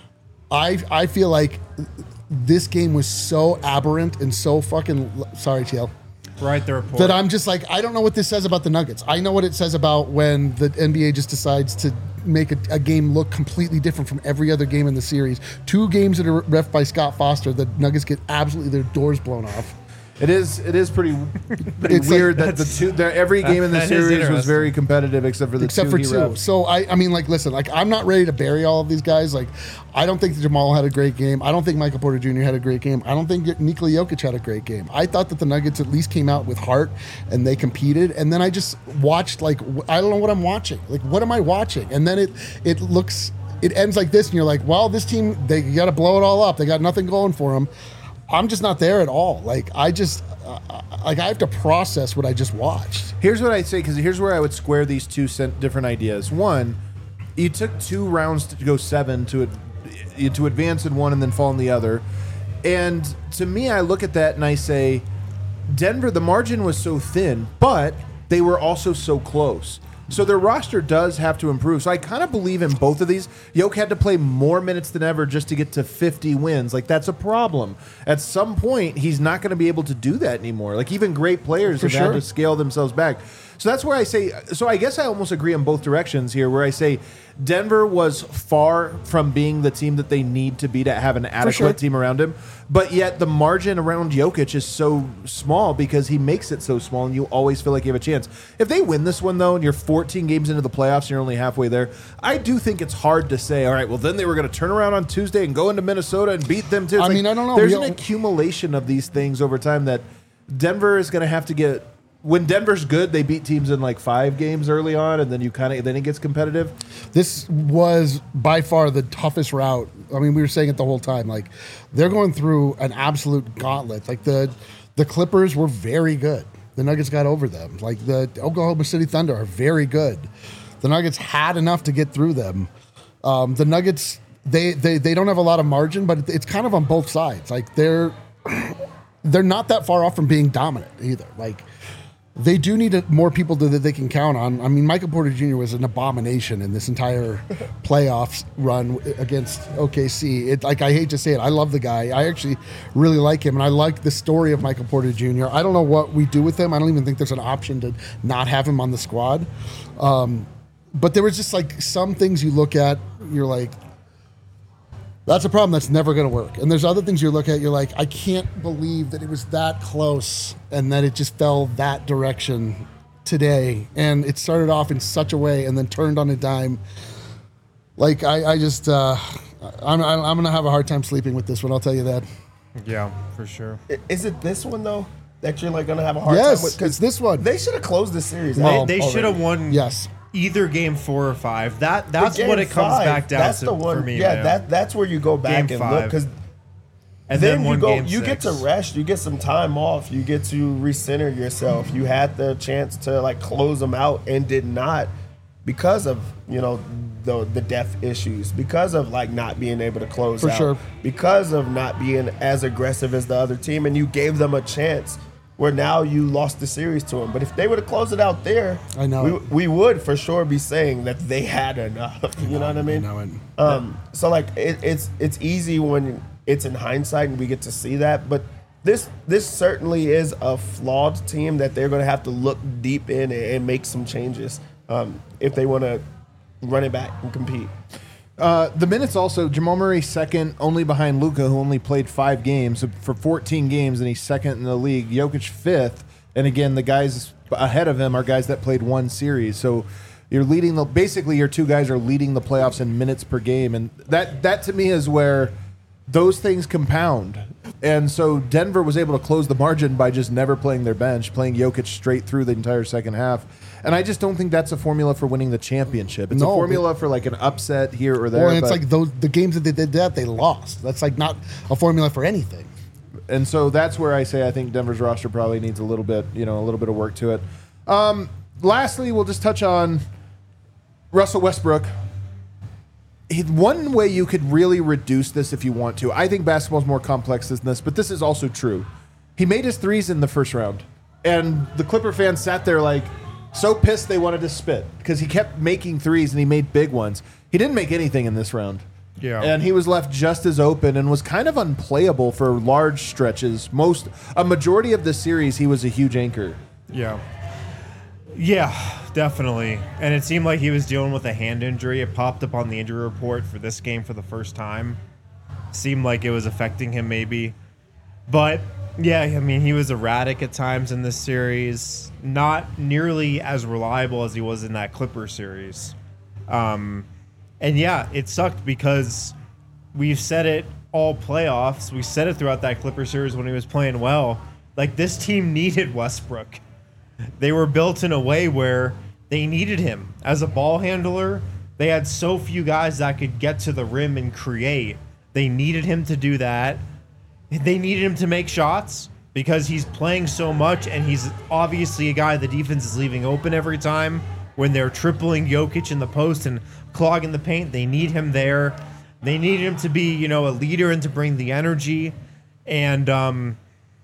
I feel like this game was so aberrant and so fucking sorry, TL. Write the report. That I'm just like, I don't know what this says about the Nuggets. I know what it says about when the NBA just decides to make a game look completely different from every other game in the series. 2 games that are ref by Scott Foster, the Nuggets get absolutely their doors blown off. It is pretty It's weird like- that every game in the that is series was interesting. very competitive except for the Except two for he 2. refs. So I mean, like, listen, like I'm not ready to bury all of these guys. Like, I don't think Jamal had a great game. I don't think Michael Porter Jr. had a great game. I don't think Nikola Jokic had a great game. I thought that the Nuggets at least came out with heart and they competed. And then I just watched I don't know what I'm watching. Like, what am I watching? And then it ends like this, and you're like, well, this team, you got to blow it all up. They got nothing going for them. I'm just not there at all. Like, I have to process what I just watched. Here's what I'd say, because here's where I would square these two different ideas. One, you took 2 rounds to go 7 to advance in one and then fall in the other. And to me, I look at that and I say, Denver, the margin was so thin, but they were also so close. So their roster does have to improve. So I kind of believe in both of these. Yoke had to play more minutes than ever just to get to 50 wins. Like, that's a problem. At some point, he's not going to be able to do that anymore. Like, even great players have had to scale themselves back. So that's where I say, so I guess I almost agree in both directions here, where I say Denver was far from being the team that they need to be to have an adequate team around him. But yet the margin around Jokic is so small because he makes it so small, and you always feel like you have a chance. If they win this one, though, and you're 14 games into the playoffs and you're only halfway there, I do think it's hard to say, all right, well, then they were going to turn around on Tuesday and go into Minnesota and beat them, too. It's I don't know. There's an accumulation of these things over time that Denver is going to have to get. When Denver's good, they beat teams in like 5 games early on, and then then it gets competitive. This was by far the toughest route. I mean, we were saying it the whole time. Like, they're going through an absolute gauntlet. Like, the Clippers were very good. The Nuggets got over them. Like, the Oklahoma City Thunder are very good. The Nuggets had enough to get through them. The Nuggets, they don't have a lot of margin, but it's kind of on both sides. Like, they're not that far off from being dominant either. Like, they do need more people that they can count on. I mean, Michael Porter Jr. was an abomination in this entire playoffs run against OKC. I hate to say it. I love the guy. I actually really like him, and I like the story of Michael Porter Jr. I don't know what we do with him. I don't even think there's an option to not have him on the squad. But there was just like some things you look at, you're like, that's a problem that's never going to work. And there's other things you look at, you're like, I can't believe that it was that close and that it just fell that direction today. And it started off in such a way and then turned on a dime. Like, I'm going to have a hard time sleeping with this one, I'll tell you that. Yeah, for sure. Is it this one, though, that you're like going to have a hard time with? Yes, it's this one. They should have closed the series. They should have won Yes. either game 4 or 5. That's Game what it comes 5, back down that's to the one, for me. Yeah, man. that's where you go back Game and look, 5. because and then one you go, game you 6. get to rest, you get some time off, you get to recenter yourself. You had the chance to like close them out and did not. because of the depth issues, because of like not being able to close For out, sure. because of not being as aggressive as the other team, and you gave them a chance where now you lost the series to them. But if they would have closed it out there, I know we would for sure be saying that they had enough. You know what I mean? I know it. So like it's easy when it's in hindsight and we get to see that, but this certainly is a flawed team that they're going to have to look deep in and make some changes if they want to run it back and compete. The minutes also, Jamal Murray second, only behind Luka, who only played 5 games for 14 games, and he's second in the league. Jokic fifth, and again, the guys ahead of him are guys that played 1 series. So you're leading basically your 2 guys are leading the playoffs in minutes per game, and that to me is where those things compound. And so Denver was able to close the margin by just never playing their bench, playing Jokic straight through the entire second half. And I just don't think that's a formula for winning the championship. It's a formula for like an upset here or there. Well, it's like the games that they did that, they lost. That's like not a formula for anything. And so that's where I say I think Denver's roster probably needs a little bit of work to it. Lastly, we'll just touch on Russell Westbrook. One way you could really reduce this if you want to, I think basketball's more complex than this, but this is also true. He made his threes in the first round, and the Clipper fans sat there like so pissed they wanted to spit because he kept making threes and he made big ones. He didn't make anything in this round. Yeah. And he was left just as open and was kind of unplayable for large stretches. A majority of the series, he was a huge anchor. Yeah. Yeah, definitely. And it seemed like he was dealing with a hand injury. It popped up on the injury report for this game for the first time. Seemed like it was affecting him maybe. But, yeah, I mean, he was erratic at times in this series. Not nearly as reliable as he was in that Clipper series. And, yeah, it sucked because we've said it all playoffs. We said it throughout that Clipper series when he was playing well. Like, this team needed Westbrook. They were built in a way where they needed him as a ball handler. They had so few guys that could get to the rim and create. They needed him to do that. They needed him to make shots because he's playing so much, and he's obviously a guy the defense is leaving open every time when they're tripling Jokic in the post and clogging the paint. They need him there. They need him to be, a leader and to bring the energy. And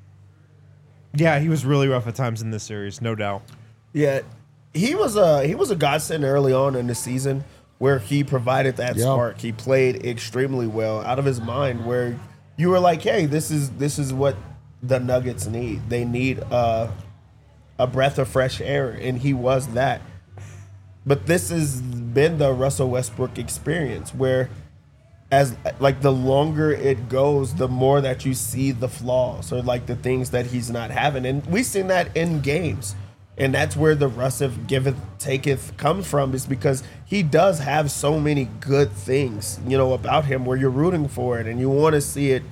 yeah, he was really rough at times in this series, no doubt. Yeah, he was a godsend early on in the season where he provided that spark. He played extremely well, out of his mind, where you were like, hey, this is what the Nuggets need. They need a breath of fresh air, and he was that. But this has been the Russell Westbrook experience, where as like the longer it goes, the more that you see the flaws or like the things that he's not having. And we've seen that in games. And that's where the Russell giveth, taketh comes from, is because he does have so many good things, about him where you're rooting for it and you want to see it,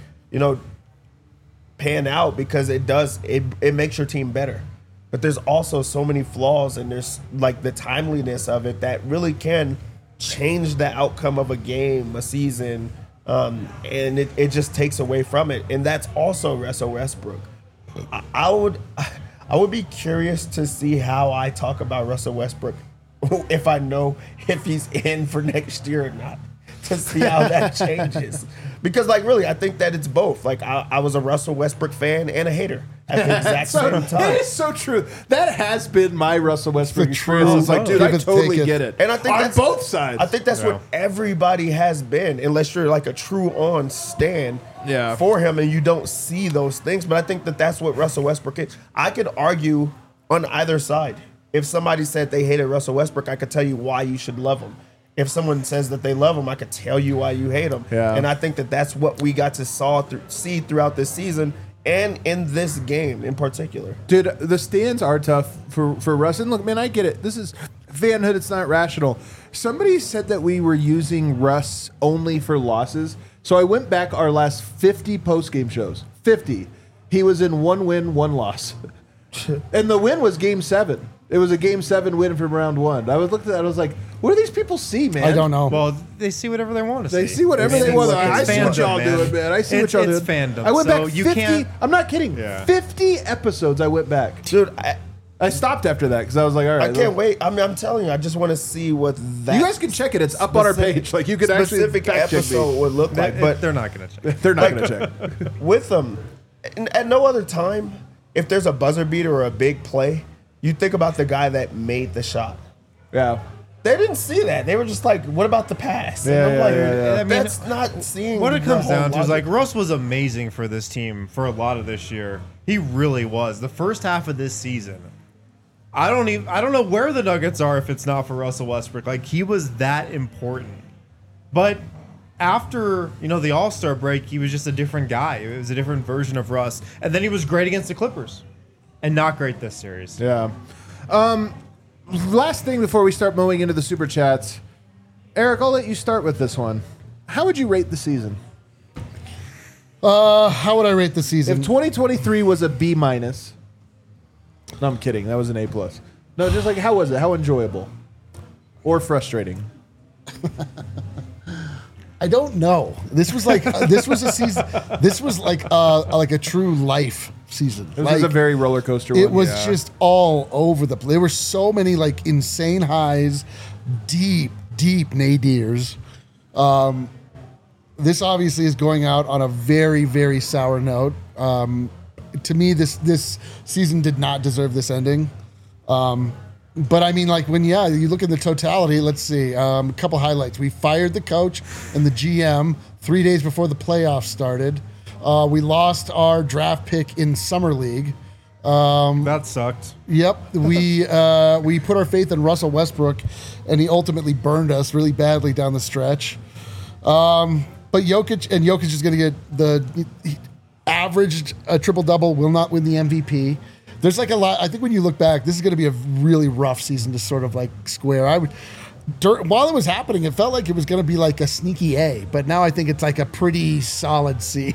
pan out because it makes your team better. But there's also so many flaws, and there's like the timeliness of it that really can change the outcome of a game, a season, and it just takes away from it. And that's also Russell Westbrook. I would be curious to see how I talk about Russell Westbrook if I know if he's in for next year or not, to see how that changes. Because, really, I think that it's both. I was a Russell Westbrook fan and a hater at the exact same time. That is so true. That has been my Russell Westbrook experience. It's like, dude, I totally get it. And I think on both sides. I think that's what everybody has been, unless you're like a true on stand for him and you don't see those things. But I think that's what Russell Westbrook is. I could argue on either side. If somebody said they hated Russell Westbrook, I could tell you why you should love him. If someone says that they love him, I could tell you why you hate him. Yeah. And I think that's what we got to see throughout this season and in this game in particular. Dude, the stands are tough for Russ. And look, man, I get it. This is fanhood. It's not rational. Somebody said that we were using Russ only for losses. So I went back our last 50 post-game shows. 50. He was in 1 win, 1 loss. And the win was Game 7. It was a Game 7 win from round 1. I was looking at that. I was like, what do these people see, man? I don't know. Well, they see whatever they want to see. They see whatever they want. I see what y'all doing, man. I see what y'all doing. It's fandom. I went so back you 50. Can't, I'm not kidding. 50 episodes I went back. Dude, I stopped after that because I was like, all right. I can't wait. I mean, I'm telling you, I just want to see what that. You guys can check it. It's up on our page. Like you could actually specific fact check me. episode would look like, but they're not going to check. They're not going to check. with them, at no other time, if there's a buzzer beater or a big play, you think about the guy that made the shot. Yeah. They didn't see that. They were just like, "What about the pass?" And I'm like, I mean, that's not seeing. What it the comes whole down to is logic. like Russ was amazing for this team for a lot of this year. He really was. The first half of this season, I don't know where the Nuggets are if it's not for Russell Westbrook. Like he was that important. But after, the All-Star break, he was just a different guy. It was a different version of Russ. And then he was great against the Clippers and not great this series. Yeah. Last thing before we start mowing into the super chats, Eric, I'll let you start with this one. How would you rate the season? How would I rate the season? If 2023 was a B minus, no, I'm kidding. That was an A plus. No, just like how was it? How enjoyable or frustrating? I don't know. This was like this was a season. This was like a true life season. It was a very roller coaster. It one. was just all over the place. There were so many like insane highs, deep nadirs. This obviously is going out on a very, very sour note. To me, this season did not deserve this ending. But I mean, like you look at the totality, let's see, a couple highlights. We fired the coach and the GM 3 days before the playoffs started. We lost our draft pick in Summer League. That sucked. Yep. We put our faith in Russell Westbrook, and he ultimately burned us really badly down the stretch. But Jokic is going to get he averaged a triple-double, will not win the MVP. There's like a lot. I think when you look back, this is going to be a really rough season to sort of like square. While it was happening, it felt like it was going to be like a sneaky A, but now I think it's like a pretty solid C.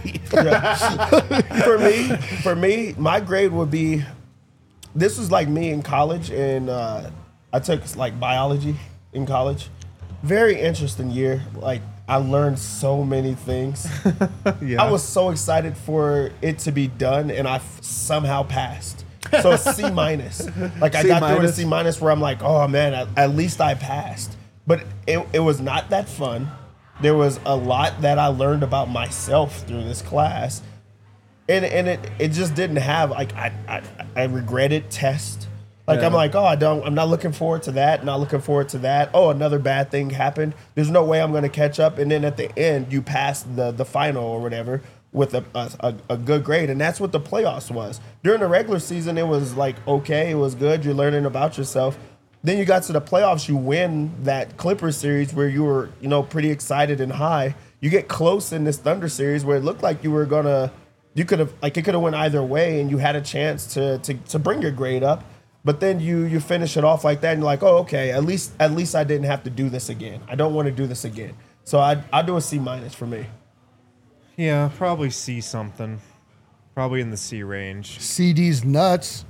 For me, my grade would be. This was like me in college, and I took like biology in college. Very interesting year. Like I learned so many things. Yeah. I was so excited for it to be done, and I somehow passed. So C minus. Like I got through a C minus where I'm like, oh man, at least I passed. But it was not that fun. There was a lot that I learned about myself through this class. And it just didn't have like I regretted test. Like I'm like, oh, I'm not looking forward to that, not looking forward to that. Oh, another bad thing happened. There's no way I'm gonna catch up. And then at the end you pass the final or whatever with a good grade. And that's what the playoffs was. During the regular season it was like okay, it was good, you're learning about yourself. Then you got to the playoffs, you win that Clippers series where you were, pretty excited and high. You get close in this Thunder series where it looked like it could have went either way and you had a chance to bring your grade up. But then you finish it off like that and you're like, oh, okay, at least I didn't have to do this again. I don't want to do this again. So I'd do a C minus for me. Yeah, probably C something. Probably in the C range. CD's nuts.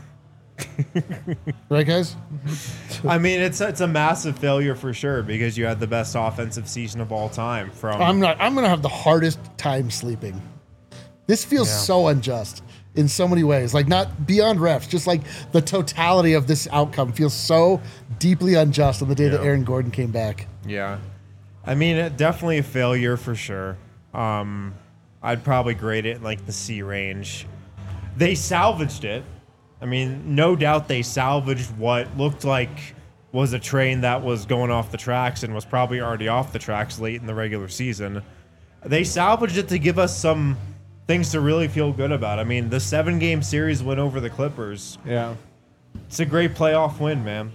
Right, guys? I mean, it's a massive failure for sure because you had the best offensive season of all time. I'm gonna have the hardest time sleeping. This feels so unjust in so many ways. Like not beyond refs, just like the totality of this outcome feels so deeply unjust on the day that Aaron Gordon came back. Yeah. I mean, definitely a failure for sure. I'd probably grade it in like the C range. They salvaged it. I mean, no doubt they salvaged what looked like was a train that was going off the tracks and was probably already off the tracks late in the regular season. They salvaged it to give us some things to really feel good about. I mean, the 7-game series win over the Clippers. Yeah. It's a great playoff win, man.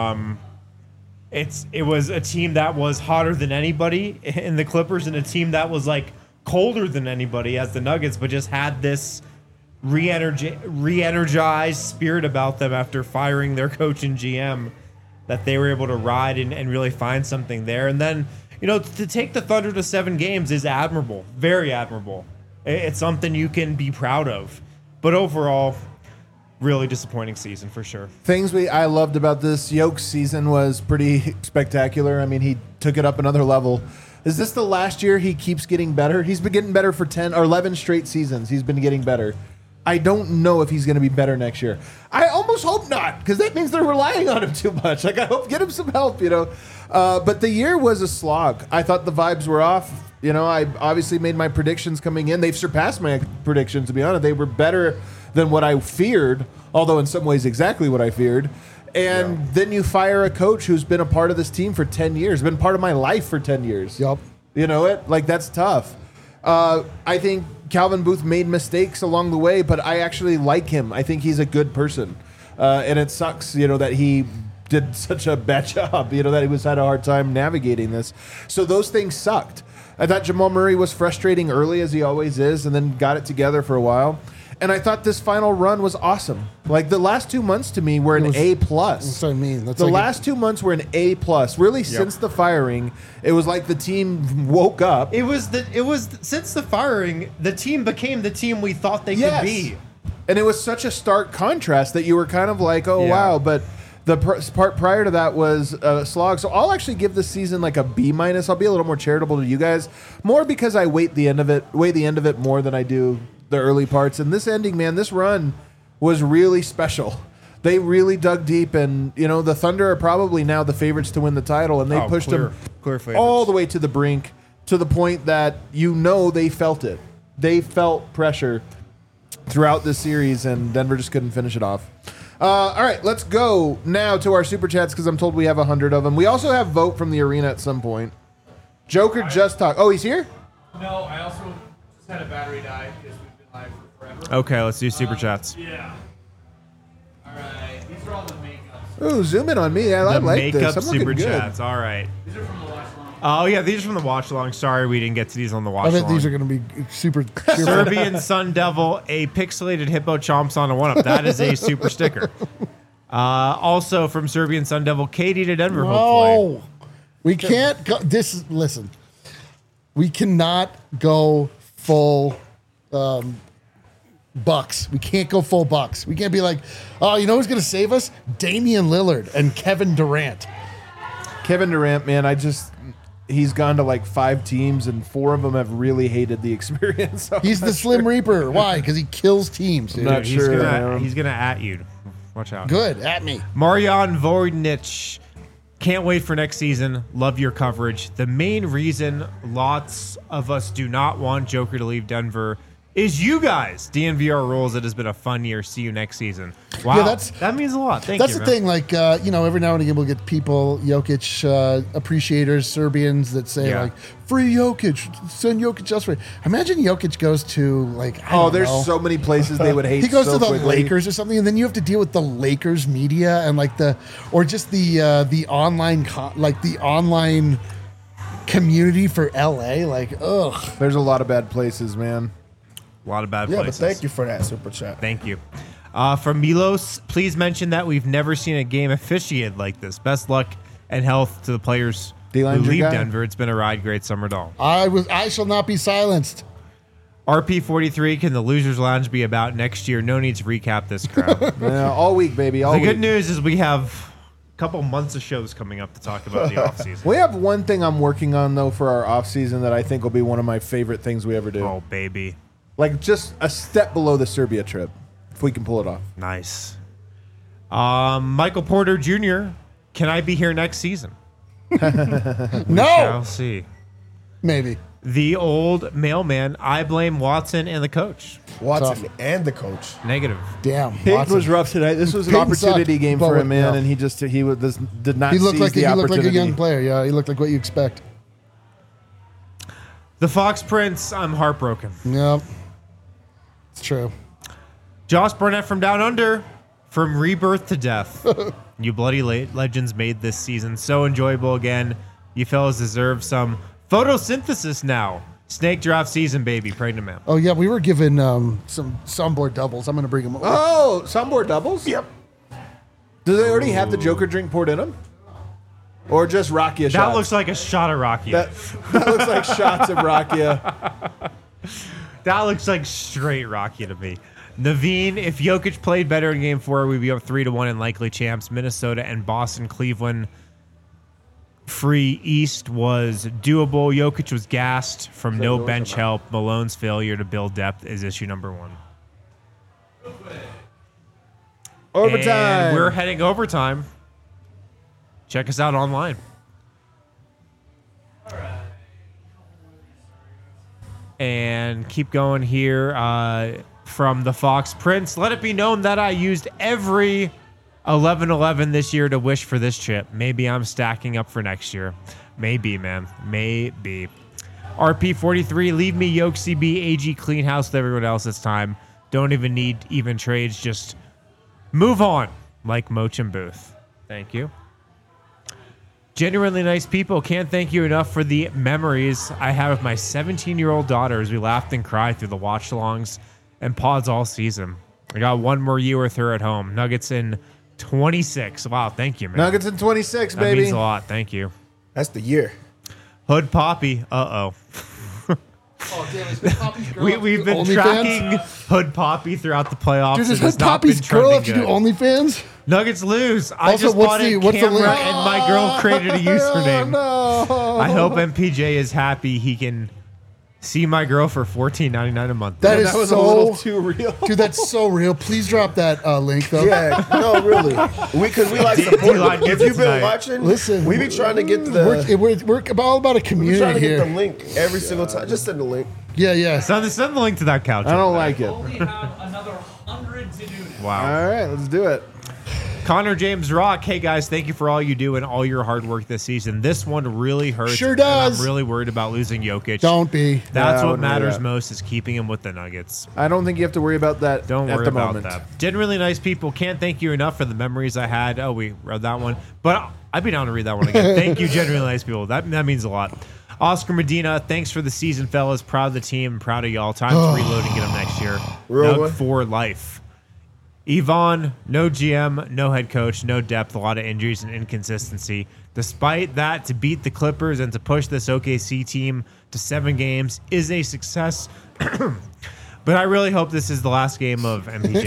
It was a team that was hotter than anybody in the Clippers and a team that was like colder than anybody as the Nuggets, but just had this re-energized spirit about them after firing their coach and GM that they were able to ride and really find something there. And then, to take the Thunder to 7 games is admirable, very admirable. It's something you can be proud of. But overall, really disappointing season for sure. Things I loved about this Yoke's season was pretty spectacular. I mean, he took it up another level. Is this the last year he keeps getting better? He's been getting better for 10 or 11 straight seasons. He's been getting better. I don't know if he's going to be better next year. I almost hope not, because that means they're relying on him too much. Like, I hope get him some help, you know. But the year was a slog. I thought the vibes were off. You know, I obviously made my predictions coming in. They've surpassed my predictions, to be honest. They were better than what I feared, although in some ways exactly what I feared. And then you fire a coach who's been a part of this team for 10 years, been part of my life for 10 years. Yup. You know it? Like, that's tough. I think Calvin Booth made mistakes along the way, but I actually like him. I think he's a good person. And it sucks, you know, that he did such a bad job, you know, that he had a hard time navigating this. So those things sucked. I thought Jamal Murray was frustrating early, as he always is, and then got it together for a while. And I thought this final run was awesome. Like, the last 2 months to me were an A+. That's what I mean. That's The like last 2 months were an A+. Really, since the firing, it was like the team woke up. It was since the firing, the team became the team we thought they could be. And it was such a stark contrast that you were kind of like, oh, Yeah. wow. But the part prior to that was a slog. So I'll actually give this season like a B-. I'll be a little more charitable to you guys, more because I weigh the end of it more than I do the early parts. And this ending, man, this run was really special. They really dug deep, and you know the Thunder are probably now the favorites to win the title, and they pushed them clear favorites. all the way to the brink, to the point that you know they felt it. They felt pressure throughout this series, and Denver just couldn't finish it off. All right, let's go now to our super chats because I'm told we have 100 of them. We also have vote from the arena at some point. Joker just talked. Oh, he's here? No, I also just had a battery die because we've been live for forever. Okay, let's do super chats. Yeah. All right. These are all the makeups. Ooh, zoom in on me. I The like makeup this. I'm looking super good. chats. All right. These are from the last one. Oh yeah, these are from the watch along. Sorry, we didn't get to these on the watch I bet along. these are going to be super. Serbian Sun Devil, a pixelated hippo chomps on a one-up. That is a super sticker. Also from Serbian Sun Devil, Katie to Denver, hopefully. No, we can't go. Listen, we cannot go full Bucks. We can't go full Bucks. We can't be like, oh, you know who's going to save us? Damian Lillard and Kevin Durant. Kevin Durant, man, he's gone to like 5 teams, and 4 of them have really hated the experience. So He's the Slim Reaper. Why? Because he kills teams. Dude. Not He's sure. gonna at you. Watch out. Good at me. Marian Voynich. Can't wait for next season. Love your coverage. The main reason lots of us do not want Joker to leave Denver is you guys. DNVR rules. It has been a fun year. See you next season. Wow, Yeah, that means a lot. Thank That's you. the man. thing. Like, every now and again, we'll get people, Jokic appreciators, Serbians that say, Yeah. like, free Jokic, send Jokic elsewhere. Imagine Jokic goes to, like, I don't there's know. so many places they would hate. He goes so to the quickly. Lakers or something, and then you have to deal with the Lakers media and like or just the online the online community for LA. Like, ugh. There's a lot of bad places, man. A lot of bad Yeah, but places. thank you for that super chat. Thank you. From Milos, please mention that we've never seen a game officiated like this. Best luck and health to the players who D-line's your leave guy? Denver. It's been a ride. Great summer doll. I shall not be silenced. RP43, can the Losers Lounge be about next year? No need to recap this crap. Yeah, all week, baby. All The week. good news is we have a couple months of shows coming up to talk about the offseason. We have one thing I'm working on though for our off season that I think will be one of my favorite things we ever do. Oh, baby. Like just a step below the Serbia trip, if we can pull it off. Nice. Michael Porter Jr., can I be here next season? No, I'll see. maybe. The old mailman, I blame Watson and the coach. Watson Tough. and the coach. Negative. Damn. Peyton Watson. was rough tonight. This was an Peyton opportunity sucked, game but for him, man, yeah. and he did not. He looked seize like the he looked like a opportunity. young player. Yeah, he looked like what you expect. The Fox Prince, I'm heartbroken. Yep, it's true. Josh Burnett from Down Under, from rebirth to death. You bloody legends made this season so enjoyable again. You fellas deserve some photosynthesis now. Snake draft season, baby. Pregnant man. Oh yeah, we were given some soundboard doubles. I'm gonna bring them over. Oh, soundboard doubles. Yep. Do they already have the Joker drink poured in them, or just Rakia shots? That looks like a shot of Rocky. that looks like shots of Rakia. That looks like straight Rocky to me. Naveen, if Jokic played better in Game 4, we'd be up 3-1 and likely champs. Minnesota and Boston, Cleveland. Free East was doable. Jokic was gassed from no bench help. Malone's failure to build depth is issue number 1. Overtime. And we're heading overtime. Check us out online. And keep going here from the Fox Prince. Let it be known that I used every 11-11 this year to wish for this chip. Maybe I'm stacking up for next year. Maybe, man. Maybe. RP43, leave me Yoke CB, AG clean house with everyone else this time. Don't even need even trades. Just move on like Moch and Booth. Thank you. Genuinely nice people. Can't thank you enough for the memories I have with my 17-year-old daughter as we laughed and cried through the watch-alongs and pods all season. I got one more year with her at home. Nuggets in 26. Wow, thank you, man. Nuggets in 26, that baby. means a lot. Thank you. That's the year. Hood Poppy. Uh-oh. Oh, damn, is Poppy's girl We've been OnlyFans? tracking Hood Poppy throughout the playoffs. Dude, is It has Hood not been Poppy's girl have to trending do good. OnlyFans? Nuggets lose. I Also, just what's bought the- a what's the camera link? and my girl created a username. No. I hope MPJ is happy he can see my girl for $14.99 a month. That is That was so a little too real. Dude, that's so real. Please drop that link though. Yeah, no, really. Because we like support. D-Line If gets you've it been tonight. watching, Listen, we be trying to get the. we're all about a We trying community to get the here. link every single time. Just send the link. Yeah. Send the link to that couch. I don't like it. Only have another 100 to do now. Wow. All right, let's do it. Connor James Rock. Hey guys, thank you for all you do and all your hard work this season. This one really hurts. Sure and does. I'm really worried about losing Jokic. Don't be. That's Yeah, I what wouldn't worry matters about it. most is keeping him with the Nuggets. I don't think you have to worry about that Don't at worry the about moment. that. Generally nice people. Can't thank you enough for the memories I had. Oh, we read that one. But I'd be down to read that one again. Thank you, genuinely nice people. That means a lot. Oscar Medina, thanks for the season, fellas. Proud of the team and proud of y'all. Time to reload and get them next year. Real Nug one. for life. Yvonne, no GM, no head coach, no depth, a lot of injuries and inconsistency. Despite that, to beat the Clippers and to push this OKC team to 7 games is a success. But I really hope this is the last game of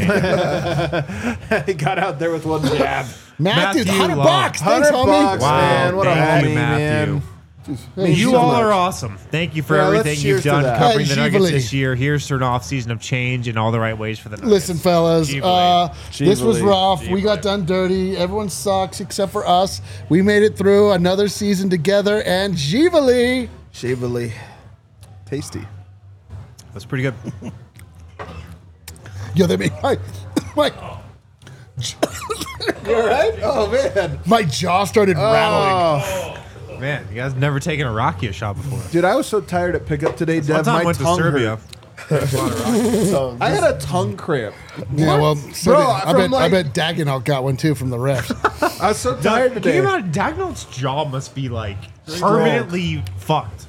MPJ. He got out there with one jab. Matthew, Matthew $100 Long. bucks. Thanks, $100, homie. man. What a thank you, homie, Matthew. man. Hey, You so all much. are awesome. Thank you for Yeah, let's everything cheers you've to done that. covering Hey, the Nuggets Givali. this year. Here's to an off-season of change in all the right ways for the Nuggets. Listen, fellas, Givali. this was Givali. rough. We got done dirty. Everyone sucks except for us. We made it through another season together, and Givali. Shively. Tasty. That's pretty good. Yo, they made my You all right? Oh, man. my jaw started rattling. Oh. Man, you guys never taken a Rakia shot before. Dude, I was so tired at pickup today, One Dev. time I My went to tongue Serbia. hurt. So I had a tongue cramp. Yeah, well, so Bro, did- I from bet like- Dagenhalt got one too from the refs. I was so tired Can today. you imagine Dagnall's jaw must be like permanently fucked.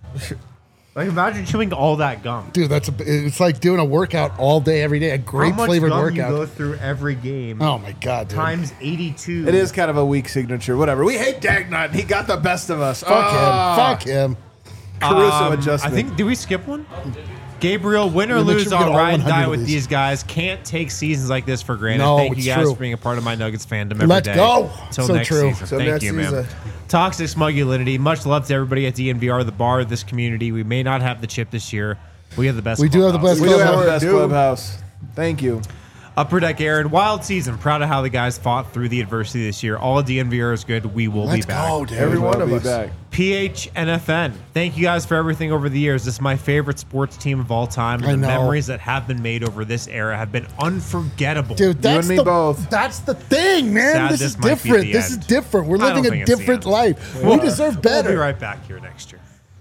Like imagine chewing all that gum. Dude, it's like doing a workout all day, every day. A How great much flavored gum you go workout. through every game Oh my god, dude. times 82. It is kind of a weak signature. Whatever. We hate Dagnut. He got the best of us. Fuck him. Caruso adjustment. I think, did we skip one? Gabriel, win or We'll make lose, sure we get I'll all ride and 100 die of with these. these guys. Can't take seasons like this for granted. No, Thank you it's guys true. for being a part of my Nuggets fandom every Let's day. go. Till So next true. season. Till Thank next you, man. season. Toxic Smugulinity. Much love to everybody at DNVR, the bar of this community. We may not have the chip this year. We have the best. We do have the clubhouse. best we do have clubhouse. the best Dude. clubhouse. Thank you. Upper Deck Aaron, wild season. Proud of how the guys fought through the adversity this year. All of DNVR is good. We will Let's be back. go, dude. Every one We'll of be us. back. PHNFN. Thank you guys for everything over the years. This is my favorite sports team of all time. I And the know. memories that have been made over this era have been unforgettable. Dude, that's and me the both. That's the thing, man. Sad this this is might be different. the This is end. different. We're I don't living a think it's the different end. life. We deserve better. We'll be right back here next year.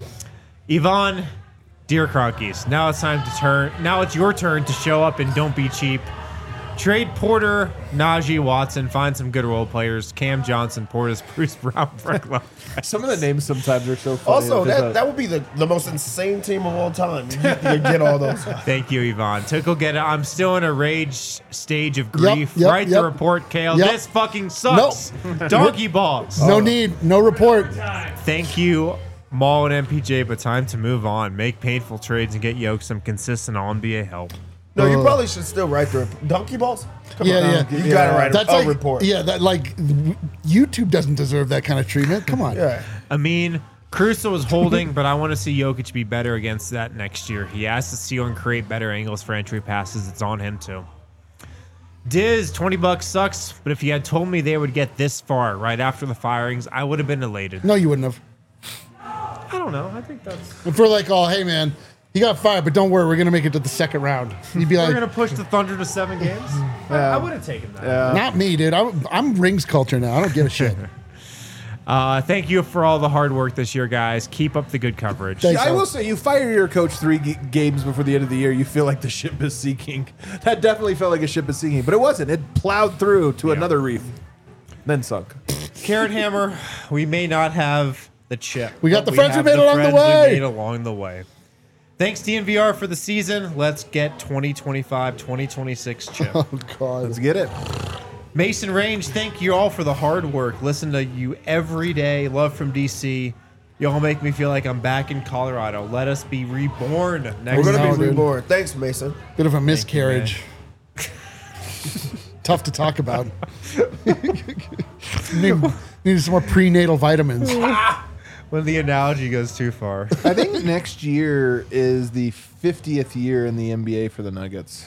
Yvonne, dear Cronkies, now it's time to turn. Now it's your turn to show up and don't be cheap. Trade Porter, Najee Watson, find some good role players. Cam Johnson, Portis, Bruce Brown, Frank Lopez. Some of the names sometimes are so funny. Also, There's that would be the most insane team of all time. You get all those. Thank you, Yvonne. Tickle get it. I'm still in a rage stage of grief. yep, Write yep. the report, Kale. Yep. This fucking sucks. Donkey balls. No need. No report. Thank you, Maul and MPJ, but time to move on. Make painful trades and get Yoke some consistent All-NBA help. No, you probably should still write the donkey balls. Come Yeah, on, yeah. You gotta write That's a like report. Yeah, that like YouTube doesn't deserve that kind of treatment. Come on. Yeah. I mean, Caruso is holding, but I want to see Jokic be better against that next year. He has to steal and create better angles for entry passes. It's on him, too. Diz, $20 sucks, but if you had told me they would get this far right after the firings, I would have been elated. No, you wouldn't have. I don't know. I think that's. If we're like, oh, hey, man, he got fired, but don't worry, we're going to make it to the second round. You'd be We're like, going to push the Thunder to 7 games? I would have taken that. not me, dude. I'm rings culture now. I don't give a shit. Thank you for all the hard work this year, guys. Keep up the good coverage. Thanks. I will say, you fire your coach 3 games before the end of the year, you feel like the ship is sinking. That definitely felt like a ship is sinking, but it wasn't. It plowed through to another reef, then sunk. Carrot Hammer, we may not have the chip. We got but the friends we have made along the friends way. We made along the way. Thanks, DNVR, for the season. Let's get 2025-2026 chip. Oh, God. Let's get it. Mason Range, thank you all for the hard work. Listen to you every day. Love from DC. Y'all make me feel like I'm back in Colorado. Let us be reborn next We're going to No, be dude. reborn. Thanks, Mason. Bit of a miscarriage. Tough to talk about. Need some more prenatal vitamins. When the analogy goes too far. I think next year is the 50th year in the NBA for the Nuggets.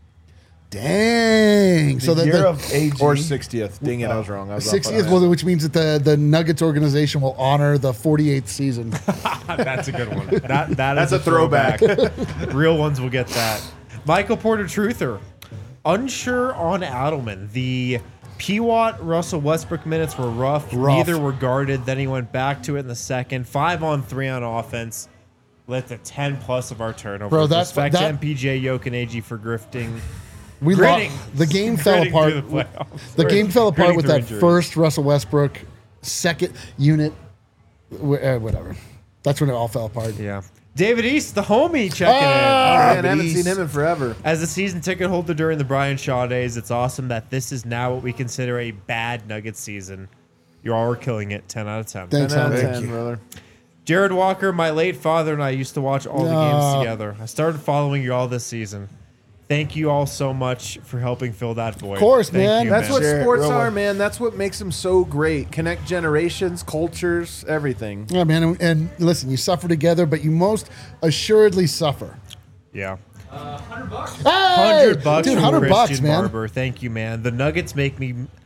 Dang. So The that year the of AG. Or 60th. Dang it, I was wrong. I was off on 60th, that. well, which means that the Nuggets organization will honor the 48th season. That's a good one. That's That's a throwback. Real ones will get that. Michael Porter Truther. Unsure on Adelman. The P-Watt Russell Westbrook minutes were rough. Neither were guarded. Then he went back to it in the second. 5-on-3 on offense. Led to 10 plus of our turnovers. Bro, that's- Respect that- MPJ, Jokic, and AG for grifting. We Gritting. lost. The game fell Gritting apart. through the playoffs. The game fell apart Gritting with through that injuries. first Russell Westbrook second unit. Whatever. That's when it all fell apart. Yeah. David East, the homie, checking in. Man, I haven't seen him in forever. As a season ticket holder during the Brian Shaw days, it's awesome that this is now what we consider a bad Nuggets season. You all are killing it. 10 out of 10. Thanks, 10 out of Hunter. 10, brother. Jared Walker, my late father and I used to watch all the No. games together. I started following you all this season. Thank you all so much for helping fill that void. Of course, man. That's what Sure, sports real are, one. man. That's what makes them so great. Connect generations, cultures, everything. Yeah, man. And listen, you suffer together, but you most assuredly suffer. Yeah. $100. Hey! $100 Dude, from $100, Christian man. Barber. Thank you, man. The Nuggets make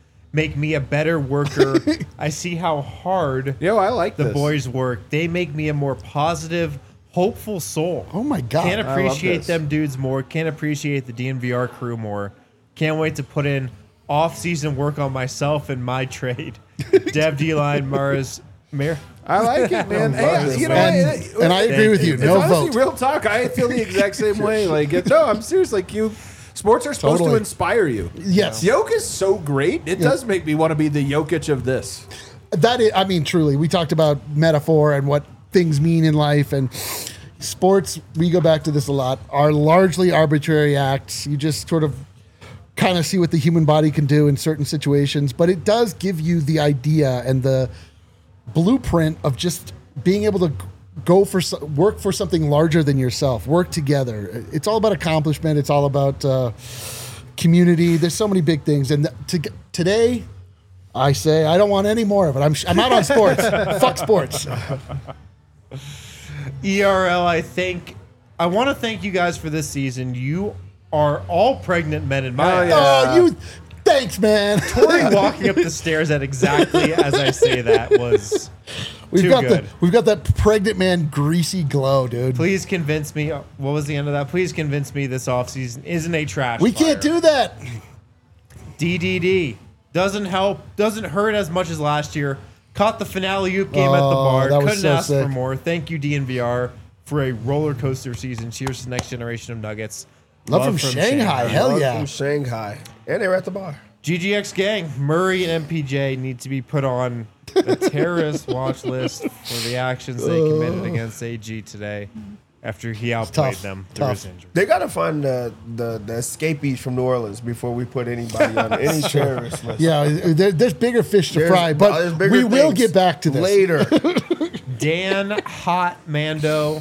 me a better worker. I see how hard Yo, I like the this. boys work. They make me a more positive, hopeful soul. Oh, my God. Can't love appreciate this. them dudes more. Can't appreciate the DNVR crew more. Can't wait to put in off-season work on myself and my trade. Dev D-Line, Mars, Mayor. I like it, man. Hey, you know, And I agree with you. It's No honestly vote. real talk. I feel the exact same way. Like, no, I'm serious. Like, sports are supposed to Totally. inspire you. Yes. Yoke is so great. It does make me want to be the Jokic of this. That is, I mean, truly, we talked about metaphor and what things mean in life, and sports, we go back to this a lot, are largely arbitrary acts. You just sort of kind of see what the human body can do in certain situations, but it does give you the idea and the blueprint of just being able to work for something larger than yourself, work together. It's all about accomplishment. It's all about community. There's so many big things. And today, I say I don't want any more of it. I'm out on sports. Fuck sports. ERL, I want to thank you guys for this season. You are all pregnant men in my Oh, eyes. yeah. Thanks, man. Tori walking up the stairs at exactly as I say that was too good. We've got that pregnant man greasy glow, dude. Please convince me. What was the end of that? Please convince me this offseason isn't a trash We fire. can't do that. DDD doesn't help, doesn't hurt as much as last year. Caught the finale oop game at the bar. that was Couldn't so ask sick. for more. Thank you, DNVR, for a roller coaster season. Cheers to the next generation of Nuggets. Love from Shanghai. Hell Love yeah. From Shanghai. And they were at the bar. GGX gang, Murray and MPJ need to be put on the terrorist watch list for the actions they committed against AG today after he outplayed tough. them through Tough. his injury. They got to find the escapees from New Orleans before we put anybody on any terrorist list. Yeah, there's bigger fish to There's- fry, there's but bigger we will things get back to this. later. Dan Hat Mando.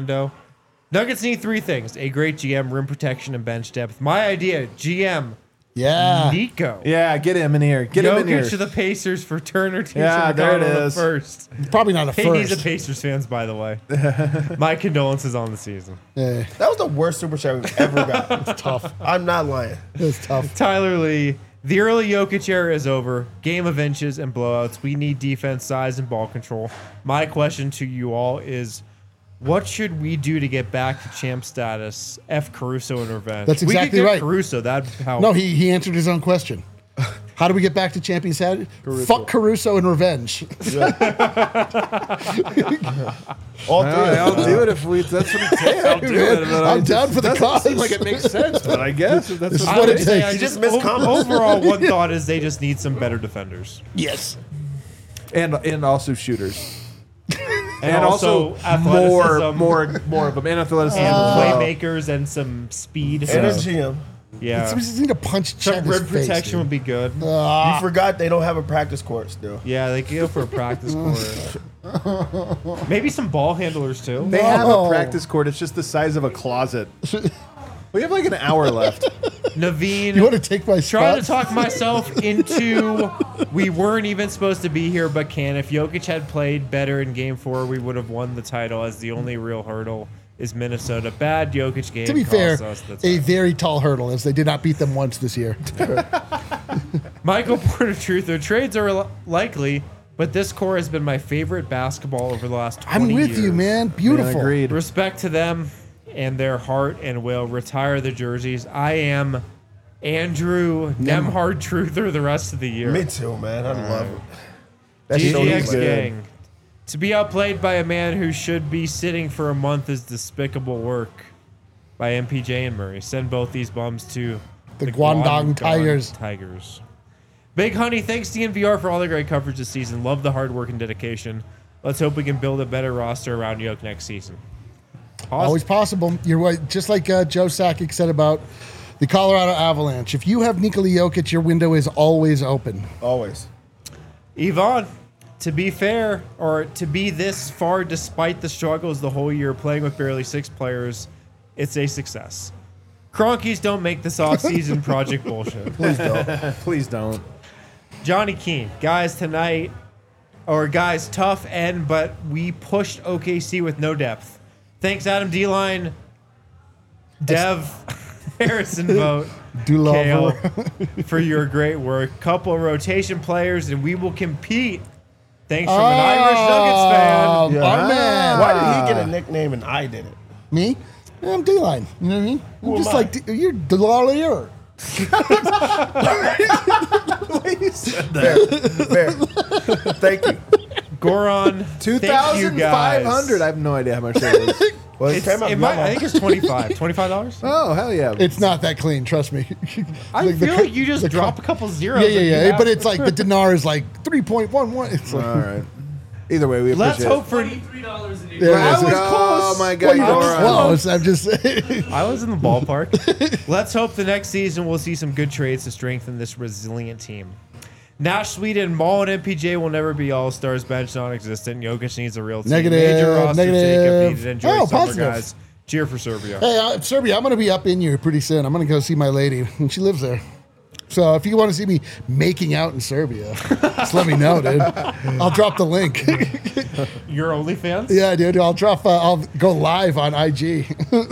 Nuggets need 3 things: a great GM, rim protection, and bench depth. My idea: GM, Yeah. Nico. Yeah, get him in here. Get him in here. Jokic to the Pacers for Turner. Yeah, there it is. First. Probably not a KD's first. a Pacers fans, by the way. My condolences on the season. Yeah, That was the worst super chat we've ever got. it's tough. I'm not lying. It's tough. Tyler Lee, the early Jokic era is over. Game of inches and blowouts. We need defense, size, and ball control. My question to you all is, what should we do to get back to champ status? F. Caruso and revenge. That's we exactly could get right. Caruso, that'd help. No, he answered his own question. How do we get back to champion status? Fuck Caruso and revenge. All three. I'll do it if we. That's what it takes. I'll do it. But I'm down for the doesn't cause. seem like it makes sense, but I guess if that's This is what what it it is. takes. I You just missed comments. overall, one thought is they just need some better defenders. Yes. And also shooters. And also athleticism. more of them. And athleticism. And as well. playmakers and some speed. And a GM. Yeah. We just need to punch Some Chet in rim his face, protection dude. would be good. You forgot they don't have a practice court still. Yeah, they could go for a practice court. Maybe some ball handlers too. They have a No. practice court. It's just the size of a closet. We have like an hour left. Naveen, You want to take my trying spot? to talk myself into we weren't even supposed to be here, but can. If Jokic had played better in Game 4, we would have won the title. As the only real hurdle is Minnesota. Bad Jokic game. To be fair, cost us the a title. very tall hurdle, as they did not beat them once this year. Michael Porter Truther, trades are likely, but this core has been my favorite basketball over the last 20 I'm with years. you, man. Beautiful. Agreed. Respect to them and their heart and will. Retire the jerseys. I am Andrew Nemhard Truther the rest of the year. Me too, man. I love it. That's so GGX good. gang. To be outplayed by a man who should be sitting for a month is despicable work by MPJ and Murray. Send both these bums to The Guangdong Tigers. Tigers. Big Honey, thanks DNVR for all the great coverage this season. Love the hard work and dedication. Let's hope we can build a better roster around Yoke next season. Always possible. You're right. Just like Joe Sakic said about the Colorado Avalanche. If you have Nikola Jokic, your window is always open. Always. Yvonne, to be fair, or to be this far despite the struggles the whole year playing with barely 6 players, it's a success. Cronkies don't make this off-season project bullshit. Please don't. Please don't. Johnny Keene, guys, tonight, or guys, tough end, but we pushed OKC with no depth. Thanks, Adam D-Line, Dev, Harrison Vote, Kale, for your great work. Couple of rotation players, and we will compete. Thanks from an Irish Nuggets fan. Yeah. Our man. Why did he get a nickname and I didn't? Me? Yeah, I'm D-line. You know what I mean? I'm Who just am I? like, you're Delalier. Fair. Thank you. Goron, thank you guys. 2,500. I have no idea how much that is. Well, it It's, came out it might, normal. I think it's $25. Oh, hell yeah. It's not that clean, trust me. I feel like you just drop a couple zeros. Yeah, and you yeah. have- But it's like the dinar is like 3.11. It's like, All right. Either way, we Let's appreciate hope for. $23.80. Yeah, I was Oh, close. my God. well, you're All right. close. I'm just saying. I was in the ballpark. Let's hope the next season we'll see some good trades to strengthen this resilient team. Nash, Sweden, Maul, and MPJ will never be all-stars. Bench non-existent. Jokic needs a real team. Negative, Major roster negative. Jacob needed. Enjoy Oh, summer, positive. guys. Cheer for Serbia. Hey, Serbia, I'm going to be up in you pretty soon. I'm going to go see my lady, and she lives there. So if you want to see me making out in Serbia, just let me know, dude. I'll drop the link. Your OnlyFans? Yeah, dude. I'll go live on IG.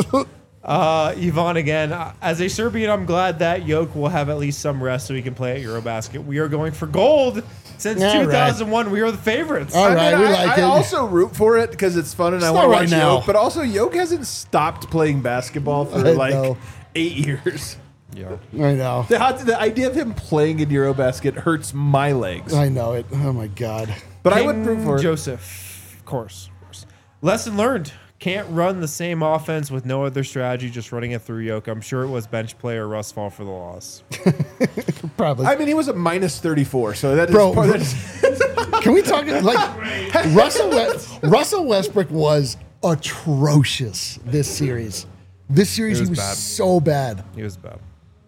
Yvonne again. As a Serbian, I'm glad that Yoke will have at least some rest so he can play at Eurobasket. We are going for gold. Since All right. 2001, we are the favorites. All right, we I like it. also root for it because it's fun and I It's want to not watch right now. Yoke. But also, Yoke hasn't stopped playing basketball for I like know. 8 years. Yeah. I know. The idea of him playing in Eurobasket hurts my legs. I know it. Oh, my God. But I King would root for it. Joseph, of course. Lesson learned. Can't run the same offense with no other strategy, just running it through Yoke. I'm sure it was bench player Russ fall for the loss. Probably. I mean, he was a minus 34, so that is Bro, part of Can we talk like Russell Westbrook was atrocious this series. This series It he was was bad. so bad. He was bad.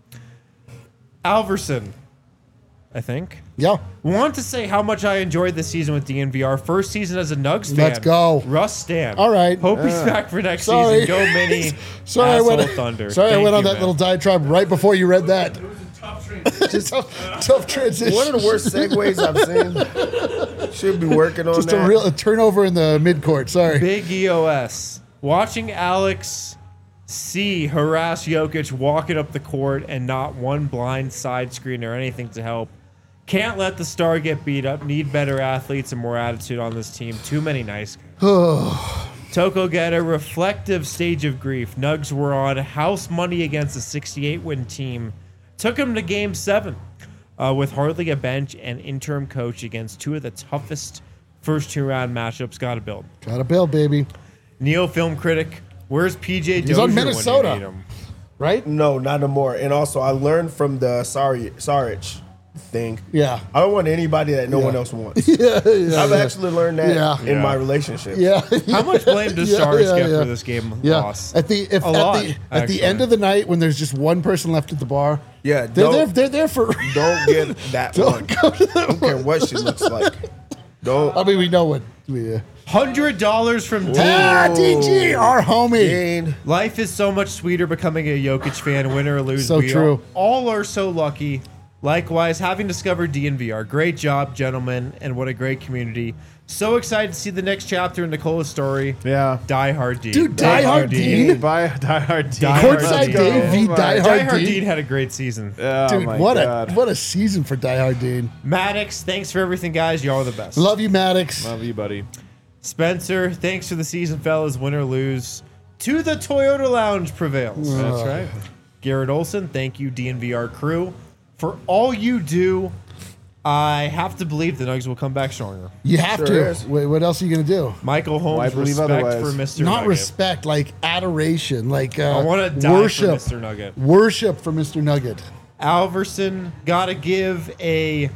Alverson, I think. Yeah. Want to say how much I enjoyed this season with DNVR. First season as a Nugs fan. Let's go. Russ Stan. All right. Hope he's back for next Sorry. season. Go Mini. Sorry, I Asshole went, Thunder. sorry I Thank went on you, that man. little diatribe right before you read that. It was a tough Such a tough transition. One of the worst segues I've seen. Should be working on Just that. a turnover in the midcourt. Sorry. Big EOS. Watching Alex C harass Jokic walking up the court and not one blind side screen or anything to help. Can't let the star get beat up. Need better athletes and more attitude on this team. Too many nice guys. Toko get a reflective stage of grief. Nugs were on house money against a 68-win team. Took him to Game 7 with hardly a bench and interim coach against two of the toughest first two-round matchups. Got to build. Got a bill, baby. Neo film critic. Where's PJ Dozier He's on when you Minnesota. need him? Right? No, not anymore. And also, I learned from the Saric thing. Yeah. I don't want anybody that no one else wants. I've actually learned that in my relationship. Yeah. How much blame does Saric get for this game loss? At the end of the night when there's just one person left at the bar. Yeah, They're there for don't get that one. I don't care what she looks like. Don't. I mean, we know what $100 from Dean. DG, our homie. Dean. Life is so much sweeter becoming a Jokic fan, win or lose. So we true. All are so lucky. Likewise, having discovered DNVR. Great job, gentlemen, and what a great community. So excited to see the next chapter in Nicola's story. Yeah. Die Hard Dean. Dude, Die Hard Dean. Die Hard Dean. Courtside Dean. Dave v. Oh Die Die Hard Hard Dean. Dean had a great season. Oh Dude, my what God. a season for Die Hard Dean. Maddox, thanks for everything, guys. Y'all are the best. Love you, Maddox. Love you, buddy. Spencer, thanks for the season, fellas. Win or lose, to the Toyota Lounge prevails. That's right. Garrett Olson, thank you, DNVR crew, for all you do. I have to believe the Nuggets will come back stronger. You have Sure to. is. Wait, what else are you gonna do? Michael Why Holmes, believe respect otherwise? for Mr. Not Nugget. respect, like adoration, like I want to die worship. for Mr. Nugget. Worship for Mr. Nugget. Alverson, gotta give a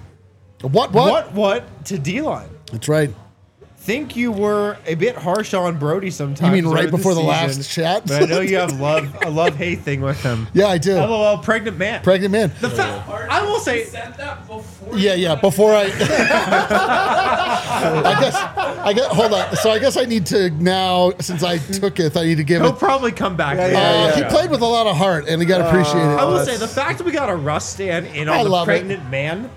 What? to D-Line. That's right. Think you were a bit harsh on Brody sometimes. You mean right during before the season, last chat? But I know you have a love-hate thing with him. Yeah, I do. LOL, pregnant man. Pregnant man. I will say, Said that before. Yeah. Before I guess. Hold on. So I guess I need to now, since I took it, I need to give he'll it. probably come back. He played with a lot of heart, and he got appreciated. I will say the fact that we got a Russ stand in I on the love it. pregnant man,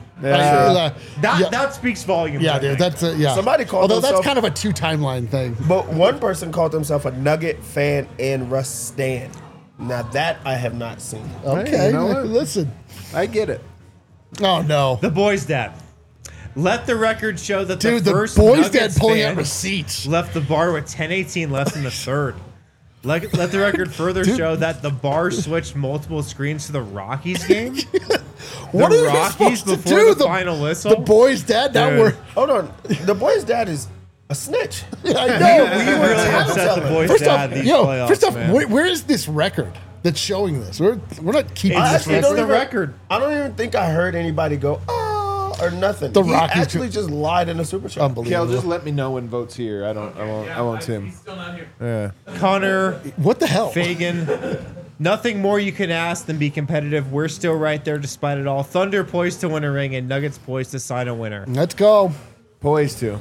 that speaks volumes. Yeah, I dude. think. That's Somebody called Although that's themselves- kind of a two timeline thing. But one person called himself a Nugget fan and Russ stan. Now that I have not seen. Okay, you know what? listen. I get it. Oh no, the boy's dad. Let the record show that dude, the the first boys' dad Nuggets pulling fan out receipts. left the bar with 10:18 left in the third. Let the record further show that the bar switched multiple screens to the Rockies game. What the are you Rockies supposed to before do? the final whistle. The boys' dad. Now Dude. we're. Hold on. The boy's dad is a snitch. I know. we really upset the boys' First dad off, these yo, playoffs, first off, man. where is this record that's showing this? We're not keeping It's- this actually it's record. the even- record. I don't even think I heard anybody go, oh, or nothing. The He Rockies actually just lied in a super chat. Unbelievable. Kel, just let me know when vote's here. I won't Tim. He's still not here. Yeah. Connor What the hell? Fagan. Nothing more you can ask than be competitive. We're still right there despite it all. Thunder poised to win a ring and Nuggets poised to sign a winner. Let's go. Poised to.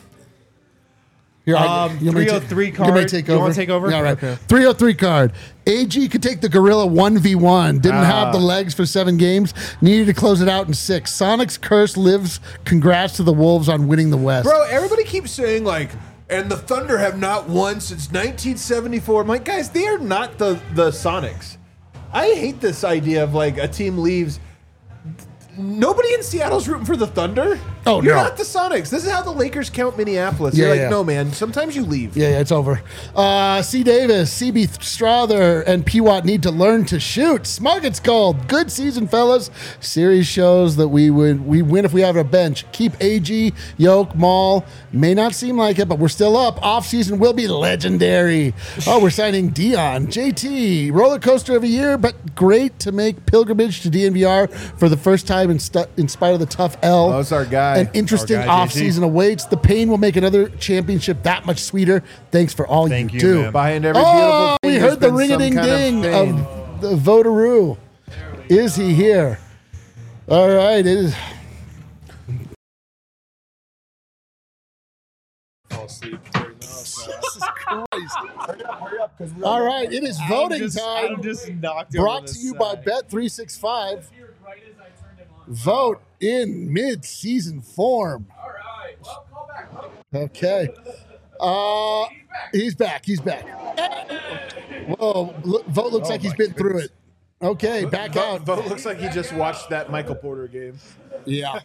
Here, you want me to 303 you want me card. to take You over? wanna take over? Yeah, all right. Okay. 303 card. AG could take the Gorilla 1v1. Didn't have the legs for 7 games. Needed to close it out in 6. Sonic's curse lives. Congrats to the Wolves on winning the West. Bro, everybody keeps saying like, and the Thunder have not won since 1974. I'm like, guys, they are not the Sonics. I hate this idea of like a team leaves. Nobody in Seattle's rooting for the Thunder. Oh, You're no. not the Sonics. This is how the Lakers count Minneapolis. Yeah, You're like, yeah. no, man. Sometimes you leave. Yeah, it's over. C. Davis, CB Strother, and P-Watt need to learn to shoot. Smug, it's called. Good season, fellas. Series shows that we win if we have a bench. Keep AG, Yoke, Maul. May not seem like it, but we're still up. Off-season will be legendary. Oh, we're signing Dion. JT, roller coaster of a year, but great to make pilgrimage to DNVR for the first time in spite of the tough L. Oh, that's our guy. An interesting Our guy, off-season awaits. The pain will make another championship that much sweeter. Thanks for all Thank you you, do. man. Behind every beautiful Oh, thing, we there's heard the been some ring-a-ding-ding kind of of the voteroo. Is he here? All right. It is. All right. It is voting time. I'm just knocked Brought to you by Bet365. Here, right as I turned him Vote in mid-season form. All right. Well, call back. Okay. He's back. He's back. Whoa. Vote looks like he's been through it. Okay, back out. Vote looks like he just watched that Michael Porter game. Yeah.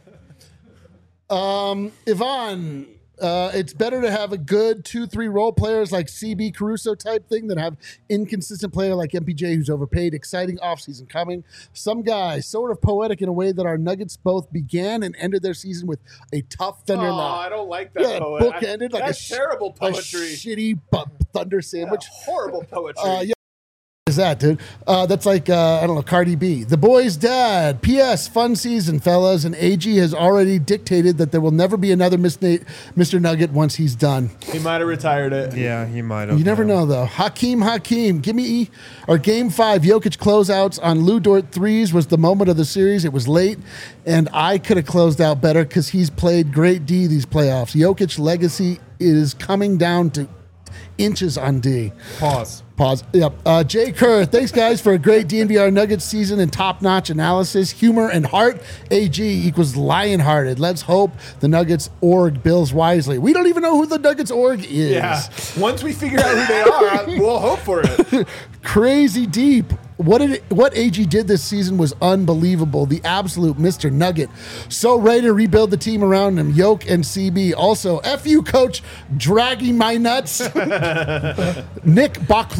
Yvonne, it's better to have a good 2-3 role players like CB Caruso type thing than have inconsistent player like MPJ who's overpaid. Exciting offseason coming. Some guy, sort of poetic in a way that our Nuggets both began and ended their season with a tough Thunder I don't like that Yeah, poet. book ended like That's a terrible a poetry. shitty Thunder sandwich. Horrible poetry. Yeah. Is that, dude? That's like, I don't know, Cardi B. The boy's dad. P.S. Fun season, fellas. And AG has already dictated that there will never be another Mr. Nugget once he's done. He might have retired it. Yeah, he might have. You never know, though. Hakeem, give me our Game 5 Jokic closeouts on Lou Dort threes was the moment of the series. It was late, and I could have closed out better because he's played great D these playoffs. Jokic legacy is coming down to inches on D. Pause. Yep. Jay Kerr, thanks guys for a great DNVR Nuggets season and top-notch analysis, humor, and heart. AG equals lion-hearted. Let's hope the Nuggets org bills wisely. We don't even know who the Nuggets org is. Yeah. Once we figure out who they are, we'll hope for it. Crazy deep. What AG did this season was unbelievable. The absolute Mr. Nugget. So ready to rebuild the team around him. Yoke and CB. Also, F you, coach, dragging my nuts. Nick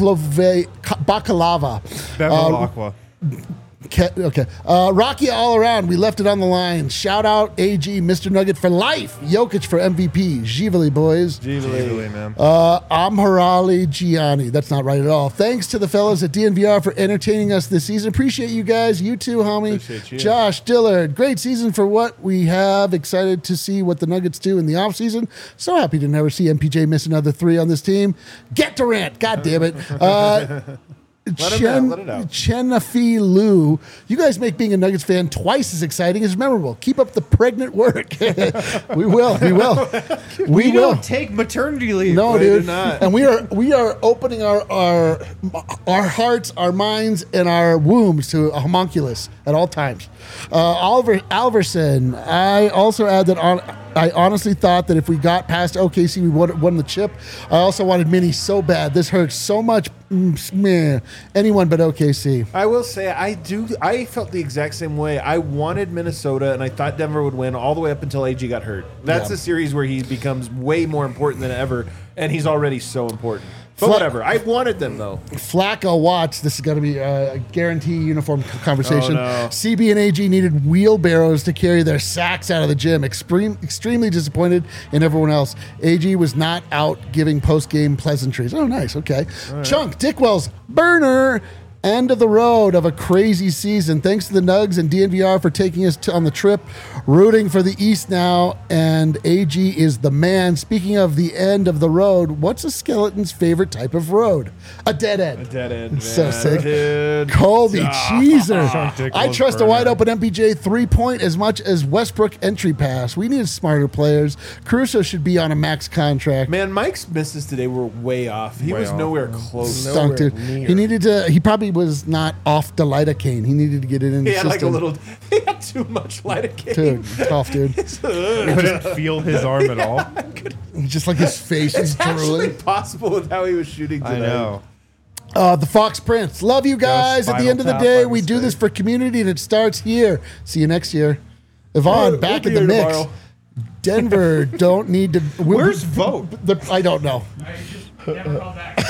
Bakalava. Bevilacqua. Okay. Rocky all around. We left it on the line. Shout out AG, Mr. Nugget for life. Jokic for MVP. Givali, boys. Givali, man. Amharali Gianni. That's not right at all. Thanks to the fellas at DNVR for entertaining us this season. Appreciate you guys. You too, homie. Appreciate you. Josh Dillard. Great season for what we have. Excited to see what the Nuggets do in the offseason. So happy to never see MPJ miss another 3 on this team. Get Durant. God damn it. Let it out. Chenafi Lou, you guys make being a Nuggets fan twice as exciting as memorable. Keep up the pregnant work. We will. We don't take maternity leave. No, We dude. do not. And we are opening our hearts, our minds, and our wombs to a homunculus at all times. Oliver Alverson. I also add that I honestly thought that if we got past OKC, we would have won the chip. I also wanted Minnie so bad. This hurts so much. Meh. Anyone but OKC. I will say I felt the exact same way. I wanted Minnesota, and I thought Denver would win all the way up until AG got hurt. That's Yeah. a series where he becomes way more important than ever, and he's already so important. But whatever. I wanted them, though. Flacco Watts. This is going to be a guarantee uniform conversation. Oh, no. CB and AG needed wheelbarrows to carry their sacks out of the gym. Extremely disappointed in everyone else. AG was not out giving post-game pleasantries. Oh, nice. Okay. Right. Chunk Dickwell's burner. End of the road of a crazy season. Thanks to the Nugs and DNVR for taking us on the trip. Rooting for the East now, and AG is the man. Speaking of the end of the road, what's a skeleton's favorite type of road? A dead end. A dead end, man. So sick. Dude. Colby Cheeser. I trust a burner. wide open MPJ 3-point as much as Westbrook entry pass. We need smarter players. Caruso should be on a max contract. Man, Mike's misses today were way off. He was nowhere close. Stunk, dude. He needed to. He probably was not off the lidocaine. He needed to get it in He the had like a system. little. He had too much lidocaine. Dude, tough, dude. Couldn't feel his arm at all. Just like his face is It's actually drooling. possible with how he was shooting today. I know. The Fox Prince. Love you guys. At the end of the day, we do this for community, and it starts here. See you next year. Yvonne, back in the We'll be here mix. tomorrow. Denver don't need to. Where's Vote? I don't know. I just never call back.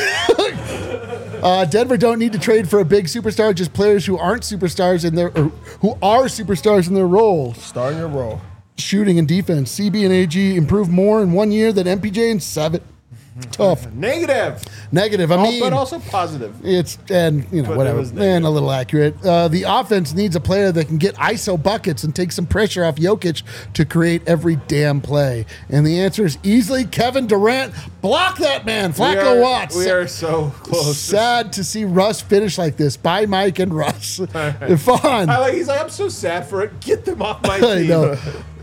Denver don't need to trade for a big superstar, just players who aren't superstars in their or who are superstars in their roles. Starting your role. Shooting and defense. CB and AG improved more in 1 year than MPJ in 7. Tough. Negative. Negative. I mean, But also positive. it's and you know But it whatever, was negative. and a little accurate. The offense needs a player that can get ISO buckets and take some pressure off Jokic to create every damn play. And the answer is easily Kevin Durant. Block that man, Flacco Watts. We are so close. Sad to see Russ finish like this. Bye, Mike and Russ. Fun. He's like, I'm so sad for it. Get them off my I team. know.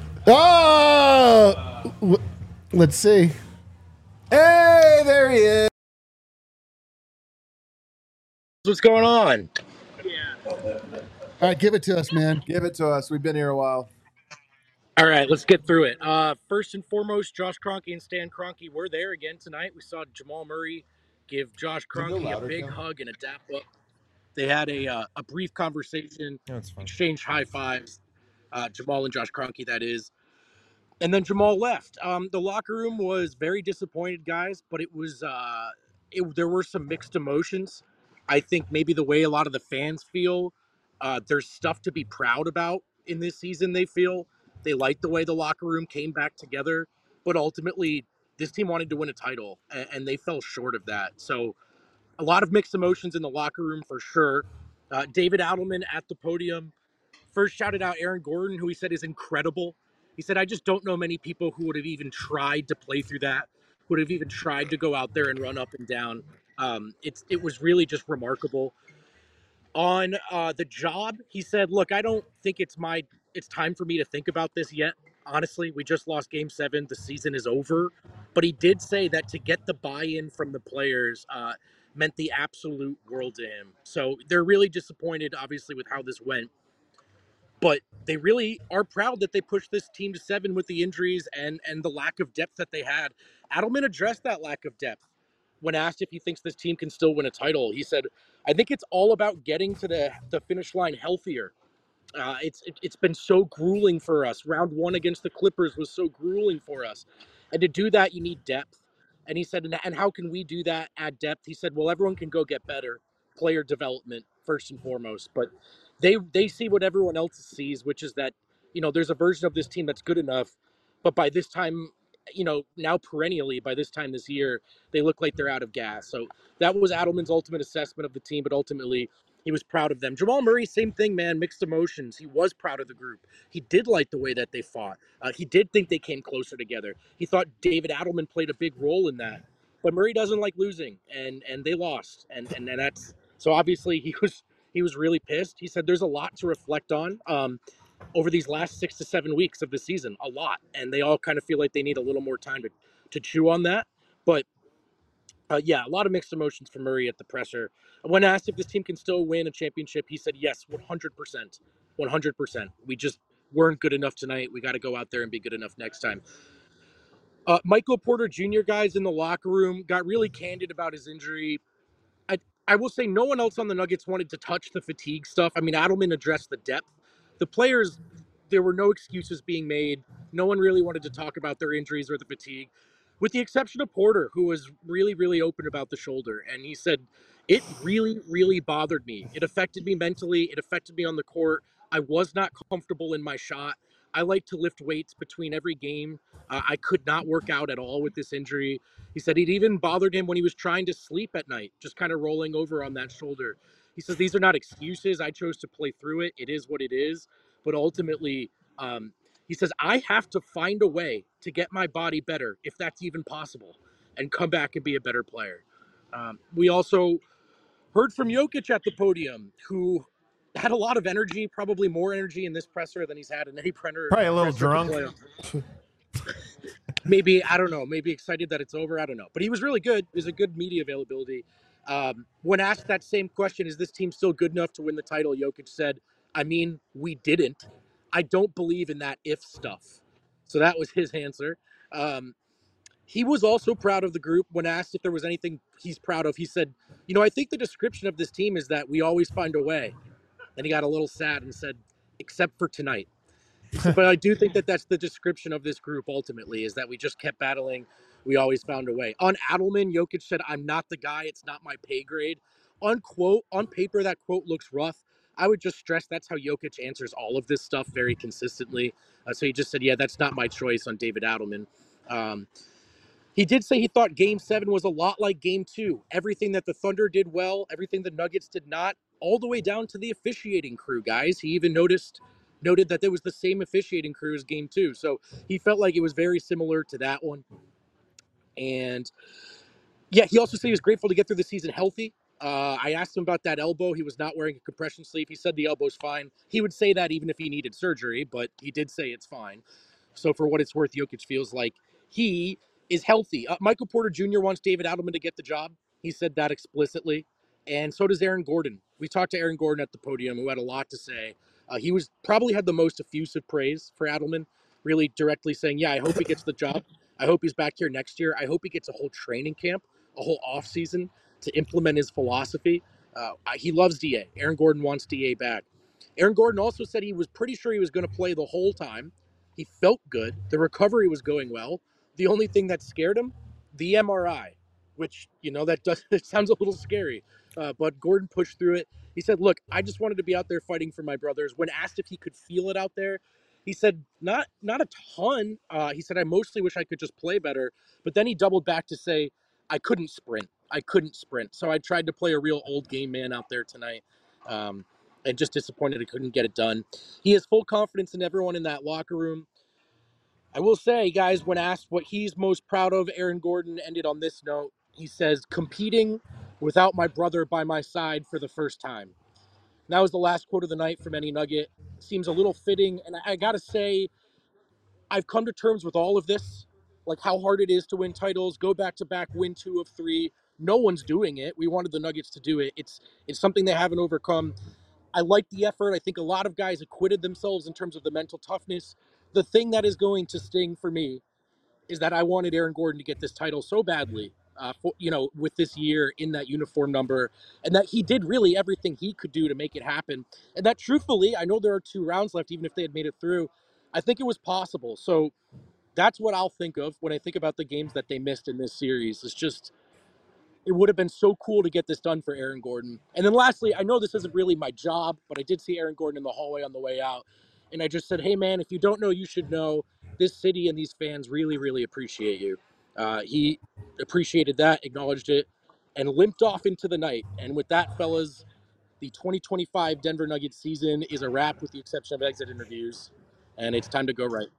Let's see. Hey, there he is. What's going on? All right, give it to us, man. Give it to us. We've been here a while. All right, let's get through it. First and foremost, Josh Kroenke and Stan Kroenke were there again tonight. We saw Jamal Murray give Josh Kroenke a big hug and a dap up. They had a brief conversation, That's fine. exchanged high fives. Jamal and Josh Kroenke, that is. And then Jamal left. The locker room was very disappointed, guys, but there were some mixed emotions. I think maybe the way a lot of the fans feel, there's stuff to be proud about in this season. They feel they like the way the locker room came back together, but ultimately this team wanted to win a title, and they fell short of that. So a lot of mixed emotions in the locker room for sure. David Adelman at the podium first shouted out Aaron Gordon, who he said is incredible. He said, I just don't know many people who would have even tried to play through that, would have even tried to go out there and run up and down. It was really just remarkable. On the job, he said, look, I don't think it's time for me to think about this yet. Honestly, we just lost game 7. The season is over. But he did say that to get the buy-in from the players meant the absolute world to him. So they're really disappointed, obviously, with how this went. But they really are proud that they pushed this team to 7 with the injuries and the lack of depth that they had. Adelman addressed that lack of depth when asked if he thinks this team can still win a title. He said, I think it's all about getting to the finish line healthier. It's been so grueling for us. Round 1 against the Clippers was so grueling for us. And to do that, you need depth. And he said, and how can we do that, add depth? He said, well, everyone can go get better. Player development, first and foremost. But they see what everyone else sees, which is that, there's a version of this team that's good enough. But by this time, now perennially, by this time this year, they look like they're out of gas. So that was Adelman's ultimate assessment of the team, but ultimately he was proud of them. Jamal Murray, same thing, man, mixed emotions. He was proud of the group. He did like the way that they fought. He did think they came closer together. He thought David Adelman played a big role in that. But Murray doesn't like losing, and they lost. And that's so obviously he was really pissed. He said there's a lot to reflect on. Over these last 6 to 7 weeks of the season, a lot, and they all kind of feel like they need a little more time to chew on that. But yeah, a lot of mixed emotions for Murray at the presser. When asked if this team can still win a championship, he said yes, 100%, 100%. We just weren't good enough tonight. We got to go out there and be good enough next time. Michael Porter Jr. guys in the locker room got really candid about his injury. I will say no one else on the Nuggets wanted to touch the fatigue stuff. I mean, Adelman addressed the depth. The players, there were no excuses being made. No one really wanted to talk about their injuries or the fatigue, with the exception of Porter, who was really, really open about the shoulder. And he said, it really, really bothered me. It affected me mentally. It affected me on the court. I was not comfortable in my shot. I like to lift weights between every game. I could not work out at all with this injury. He said it even bothered him when he was trying to sleep at night, just kind of rolling over on that shoulder. He says, these are not excuses. I chose to play through it. It is what it is. But ultimately, he says, I have to find a way to get my body better, if that's even possible, and come back and be a better player. We also heard from Jokic at the podium, who had a lot of energy, probably more energy in this presser than he's had in any presser. Probably a little drunk. Maybe, I don't know, maybe excited that it's over. I don't know. But he was really good. There's a good media availability. When asked that same question, is this team still good enough to win the title? Jokic said, I mean, we didn't. I don't believe in that if stuff. So that was his answer. He was also proud of the group. When asked if there was anything he's proud of, he said, I think the description of this team is that we always find a way. Then he got a little sad and said, except for tonight. But I do think that that's the description of this group ultimately, is that we just kept battling. We always found a way. On Adelman, Jokic said, I'm not the guy. It's not my pay grade. On paper, that quote looks rough. I would just stress that's how Jokic answers all of this stuff very consistently. So he just said, yeah, that's not my choice on David Adelman. He did say he thought Game 7 was a lot like Game 2. Everything that the Thunder did well, everything the Nuggets did not, all the way down to the officiating crew, guys. He even noted that there was the same officiating crew as Game 2. So he felt like it was very similar to that one. And yeah, he also said he was grateful to get through the season healthy. I asked him about that elbow. He was not wearing a compression sleeve. He said the elbow's fine. He would say that even if he needed surgery, but he did say it's fine. So for what it's worth, Jokic feels like he is healthy. Michael Porter Jr. wants David Adelman to get the job. He said that explicitly. and so does Aaron Gordon. We talked to Aaron Gordon at the podium, who had a lot to say. He was probably had the most effusive praise for Adelman, really directly saying, yeah, I hope he gets the job. I hope he's back here next year. I hope he gets a whole training camp, a whole offseason to implement his philosophy. He loves DA. Aaron Gordon wants DA back. Aaron Gordon also said he was pretty sure he was going to play the whole time. He felt good. The recovery was going well. The only thing that scared him, the MRI, which, it sounds a little scary. But Gordon pushed through it. He said, look, I just wanted to be out there fighting for my brothers. When asked if he could feel it out there, he said, not a ton. He said, I mostly wish I could just play better. But then he doubled back to say, I couldn't sprint. So I tried to play a real old game man out there tonight. And just disappointed I couldn't get it done. He has full confidence in everyone in that locker room. I will say, guys, when asked what he's most proud of, Aaron Gordon ended on this note. He says, competing without my brother by my side for the first time. And that was the last quote of the night from any Nugget. Seems a little fitting. And I got to say, I've come to terms with all of this, like how hard it is to win titles, go back-to-back, win 2 of 3. No one's doing it. We wanted the Nuggets to do it. It's something they haven't overcome. I like the effort. I think a lot of guys acquitted themselves in terms of the mental toughness. The thing that is going to sting for me is that I wanted Aaron Gordon to get this title so badly, with this year in that uniform number, and that he did really everything he could do to make it happen. And that, truthfully, I know there are 2 rounds left, even if they had made it through. I think it was possible. So that's what I'll think of when I think about the games that they missed in this series. It's just, it would have been so cool to get this done for Aaron Gordon. And then lastly, I know this isn't really my job, but I did see Aaron Gordon in the hallway on the way out. And I just said, hey, man, if you don't know, you should know. This city and these fans really, really appreciate you. He appreciated that, acknowledged it, and limped off into the night. And with that, fellas, the 2025 Denver Nuggets season is a wrap with the exception of exit interviews. And it's time to go right.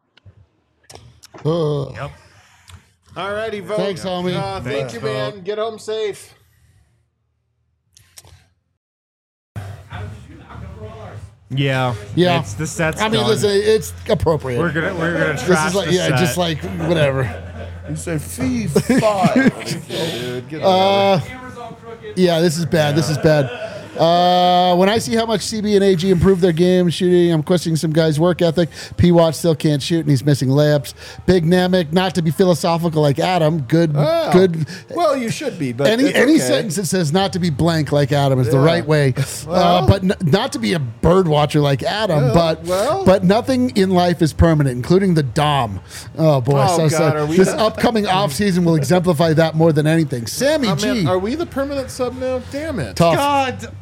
Yep. All righty, Vogt. Thanks, homie. Thank you, man. Get home safe. Yeah. Yeah. The set's I mean, done. listen, it's appropriate. We're gonna This trash is like, the yeah, set. just like whatever. You said fee 5. Dude, get Camera's all crooked. Yeah, this is bad. This is bad. When I see how much CB and AG improved their game shooting, I'm questioning some guys' work ethic. P-Watch still can't shoot, and he's missing layups. Big Namek, not to be philosophical like Adam. Good. Well, you should be, but Any it's okay. sentence that says not to be blank like Adam is the Yeah. right way, Well. but not to be a bird watcher like Adam. Well. But nothing in life is permanent, including the Dom. Oh boy! Oh, God, are we this the- upcoming offseason will exemplify that more than anything. Sammy Oh, G, man, are we the permanent sub now? Damn it. tough. God.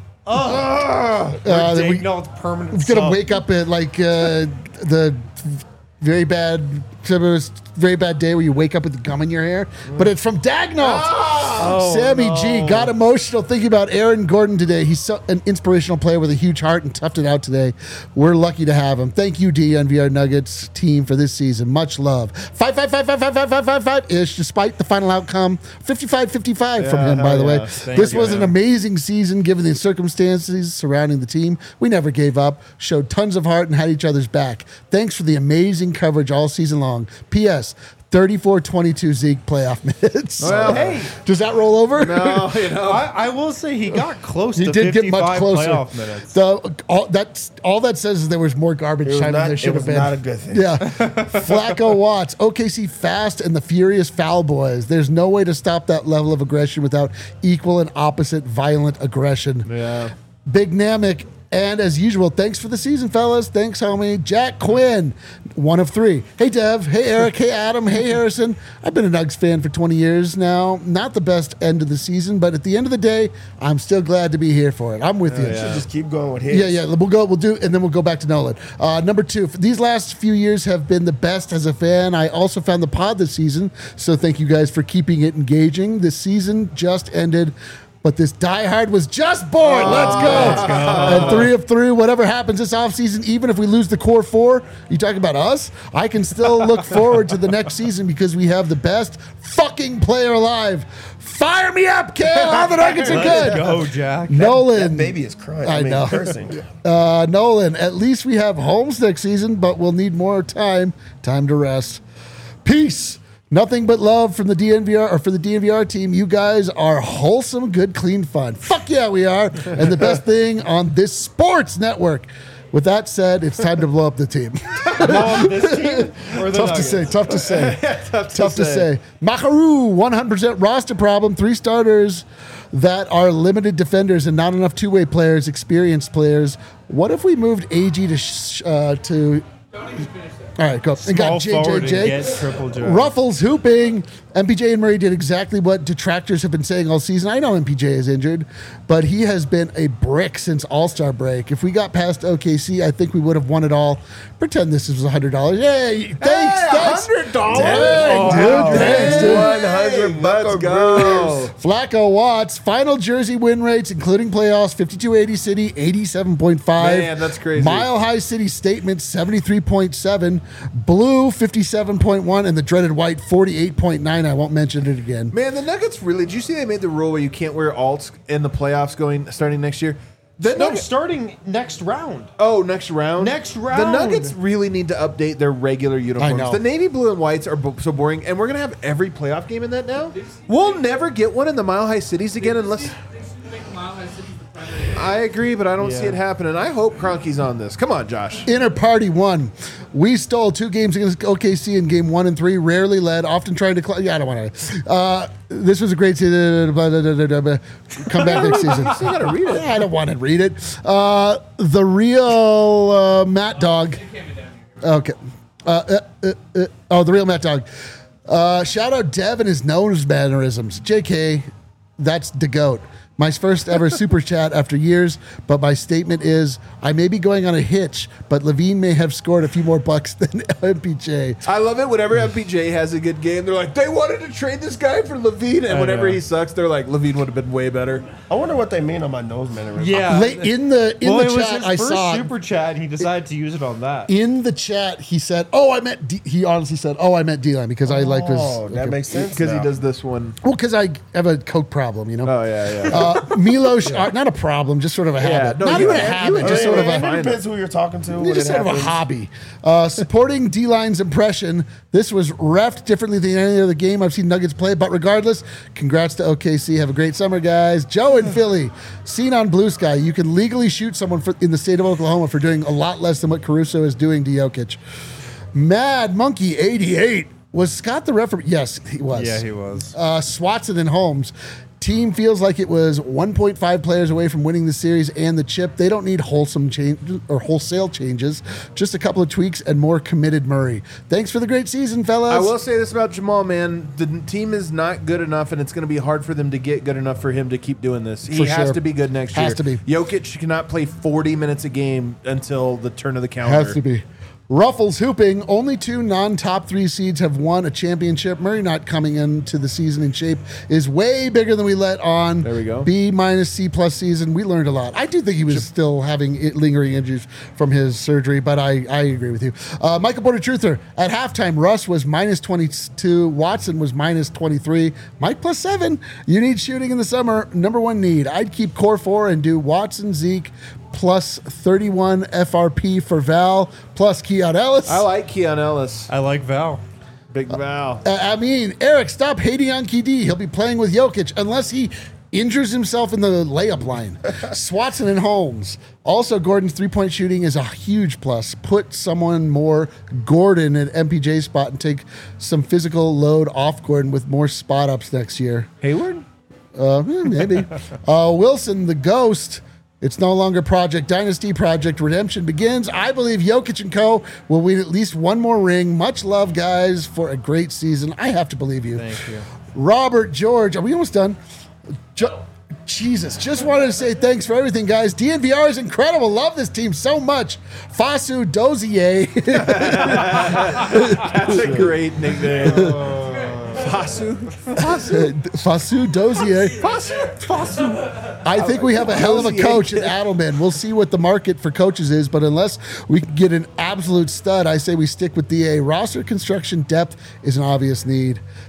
We're permanent. gonna wake up at like the very bad day where you wake up with gum in your hair, but it's from Dagnall. Sammy G got emotional thinking about Aaron Gordon today. He's an inspirational player with a huge heart and toughed it out today. We're lucky to have him. Thank you, D, on VR Nuggets team for this season. Much love. 5-5-5-5-5-5-5-5-ish, despite the final outcome. 55-55 from him, by the way. This was an amazing season given the circumstances surrounding the team. We never gave up, showed tons of heart, and had each other's back. Thanks for the amazing coverage all season long. P.S. 34-22 Zeke playoff minutes. Well, hey. Does that roll over? No, I will say he got close He to did 55 get much closer. playoff minutes. All that says is there was more garbage time than there should have been. not a good thing. Yeah. Flacco Watts, OKC Fast and the Furious Foul Boys. There's no way to stop that level of aggression without equal and opposite violent aggression. Yeah. Big Namek. And as usual, thanks for the season, fellas. Thanks, homie. Jack Quinn, 1 of 3. Hey, Dev. Hey, Eric. Hey, Adam. Hey, Harrison. I've been a Nugs fan for 20 years now. Not the best end of the season, but at the end of the day, I'm still glad to be here for it. I'm with you. Should just keep going with his. Yeah. We'll do, and then we'll go back to Nolan. Number 2, these last few years have been the best as a fan. I also found the pod this season, so thank you guys for keeping it engaging. This season just ended, but this diehard was just born. Let's go. And 3 of 3, whatever happens this offseason, even if we lose the core 4, you talking about us? I can still look forward to the next season because we have the best fucking player alive. Fire me up, Kale. All the Nuggets are good. Go, Jack. Nolan. That baby is crying. I know. Cursing. Nolan, at least we have Holmes next season, but we'll need more time to rest. Peace. Nothing but love from the DNVR or for the DNVR team. You guys are wholesome, good, clean fun. Fuck yeah, we are. And the best thing on this sports network. With that said, it's time to blow up the team. This team or the Tough to Nuggets? say. Tough to say. Tough to say. Makaru, 100% roster problem. 3 starters that are limited defenders and not enough two-way players, experienced players. What if we moved AG to Don't even finish that. all right, go. And got Small forward and get JJJ. triple J. Ruffles hooping. MPJ and Murray did exactly what detractors have been saying all season. I know MPJ is injured, but he has been a brick since All-Star break. If we got past OKC, I think we would have won it all. Pretend this was $100. Hey, thanks. $100. Dang, dude. Thanks, dude. 100 Let's go. Flacco Watts, final jersey win rates, including playoffs, 52-80 City, 87.5. Man, that's crazy. Mile High City Statement, 73.7. Blue, 57.1. And the dreaded white, 48.9. I won't mention it again. Man, the Nuggets really. Did you see they made the rule where you can't wear alts in the playoffs starting next year? The No, Nuggets. starting next round. Oh, next round. Next The round. Nuggets really need to update their regular uniforms. know. The navy blue and whites are so boring, and we're gonna have every playoff game in that now. We'll never get one in the Mile High Cities again unless. They should make Mile High City the primary. I agree, but I don't see Yeah. it happening. I hope Kroenke's on this. Come on, Josh. Inner Party 1. We stole 2 games against OKC in game 1 and 3. Rarely led, often trying to. Yeah, I don't want to. This was a great season. Come back next season. You gotta read it. I don't want to read it. The real Matt Dog. Okay. The real Matt Dog. Shout out Dev and his nose mannerisms. JK, that's the GOAT. My first ever super chat after years, but my statement is I may be going on a hitch, but Levine may have scored a few more bucks than MPJ. I love it. Whenever MPJ has a good game, they're like, they wanted to trade this guy for Levine, and I whenever know. he sucks, they're like, Levine would have been way better. I wonder what they mean on my nose mannerism. Yeah. In the it was chat, his I first saw super chat, and he decided to use it on that. in the chat. He said, "Oh, I meant." He honestly said, "Oh, I meant D-line because I like his." Oh, that makes sense. Because he now. does this one. Well, because I have a coke problem, you know. Oh, yeah. Milos, not a problem, just sort of a habit. no, Not you even a had- habit, you just had- sort of a. It Find depends who you're talking to. when Just it sort of a happens. hobby. Supporting D-Line's impression. This was reffed differently than any other game I've seen Nuggets play, but regardless, congrats to OKC. Have a great summer, guys. Joe in Philly, seen on Blue Sky. You can legally shoot someone in the state of Oklahoma for doing a lot less than what Caruso is doing to Jokic. Mad Monkey 88. Was Scott the referee? Yes, he was. Yeah, he was. Swatson and Holmes. Team feels like it was 1.5 players away from winning the series and the chip. They don't need wholesome change or wholesale changes, just a couple of tweaks and more committed Murray. Thanks for the great season, fellas. I will say this about Jamal, man. The team is not good enough, and it's going to be hard for them to get good enough for him to keep doing this. He For has sure. to be good next year. Has to be. Jokic cannot play 40 minutes a game until the turn of the calendar. Has to be. Ruffles hooping. Only 2 non-top 3 seeds have won a championship. Murray not coming into the season in shape is way bigger than we let on. There we go. B minus C plus season. We learned a lot. I do think he was still having lingering injuries from his surgery, but I agree with you. Michael Porter Truther. At halftime, Russ was minus 22. Watson was minus 23. Mike plus 7. You need shooting in the summer. Number 1 need. I'd keep core 4 and do Watson, Zeke, plus 31 FRP for Val, plus Keon Ellis. I like Keon Ellis. I like Val. Big Val. I mean, Eric, stop hating on KD. He'll be playing with Jokic unless he injures himself in the layup line. Swatson and Holmes. Also, Gordon's three-point shooting is a huge plus. Put someone more Gordon at MPJ spot and take some physical load off Gordon with more spot ups next year. Hayward? Maybe. Wilson, the ghost. It's no longer Project Dynasty. Project Redemption begins. I believe Jokic and co. will win at least one more ring. Much love, guys, for a great season. I have to believe you. Thank you. Robert George. Are we almost done? Jesus. Just wanted to say thanks for everything, guys. DNVR is incredible. Love this team so much. Fasu Dozier. That's a great nickname. Fasu? Fasu Dozier. I think we have a hell of a coach in Adelman. We'll see what the market for coaches is, but unless we can get an absolute stud, I say we stick with DA. Roster construction depth is an obvious need.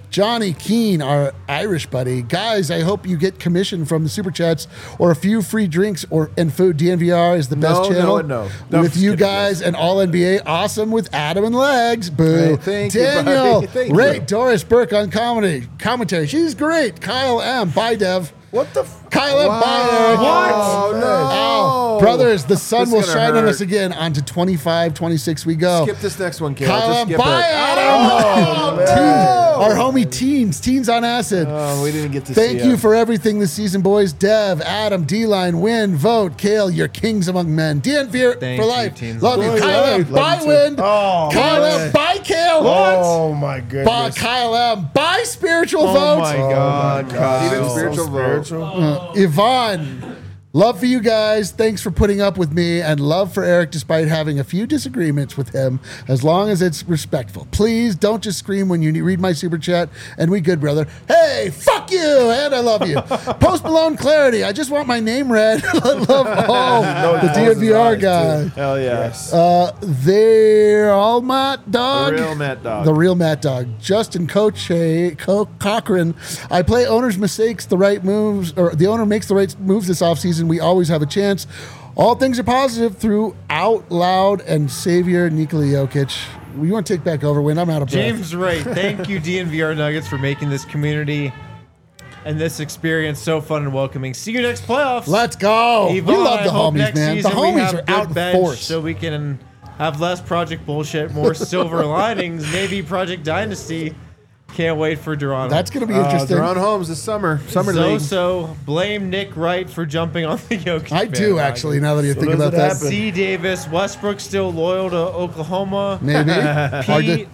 Johnny Keene, our Irish buddy. Guys, I hope you get commission from the Super Chats or a few free drinks and food. DNVR is the best channel. No. With you guys and all NBA. Awesome with Adam and Legs. Boo. Hey, thank you, Daniel, buddy. Thank Ray, you. Doris Burke on commentary. She's great. Kyle M. Bye, Dev. What the? Kyle M. Bye, Eric. Oh, no. Oh, brothers, the sun This will is gonna shine on hurt. us again. On to 25, 26 we go. Skip this next one, Kale. Kyle Just M. skip Bye, it. Adam. Oh, Our homie Teens on acid. Oh, we didn't get to see Thank you it. for everything this season, boys. Dev, Adam, D-Line, Win, Vote, Kale, you're kings among men. DNVR Thank for you, life. teens. Love you. Boys, Kyle M. love Bye, you too. Win. Oh, Kyle man. M. Bye, Kale. Oh my goodness. Kyle M. Bye, Spiritual Oh Vote. my God, Even Kyle. spiritual vote. Spiritual. Yvonne, love for you guys. Thanks for putting up with me, and love for Eric despite having a few disagreements with him, as long as it's respectful. Please don't just scream when you read my super chat, and we good, brother. Hey, fuck you, and I love you. Post Malone Clarity, I just want my name read. I love all the DNVR guy. Hell yeah. Yes. They're all Matt The Dog. real Matt Dog. The real Matt Dog. Justin Cochran. I play owner's mistakes, the right moves, or the owner makes the right moves this offseason. We always have a chance. All things are positive through Out Loud and Savior Nikola Jokic. You want to take back over, Win? I'm out of breath. James Wright, thank you, DNVR Nuggets, for making this community and this experience so fun and welcoming. See you next playoffs. Let's go. Yvonne, we love I the hope homies, next man. The season we homies have are good out in bench force. so we can have less Project Bullshit, more Silver Linings, maybe Project Dynasty. Can't wait for Duran. That's going to be interesting. They're on homes this summer. Summer league. So blame Nick Wright for jumping on the Jokic. I do, bandwagon. actually, now that you think does about it that. happen? C. Davis, Westbrook still loyal to Oklahoma. Maybe. Hard to- Pete,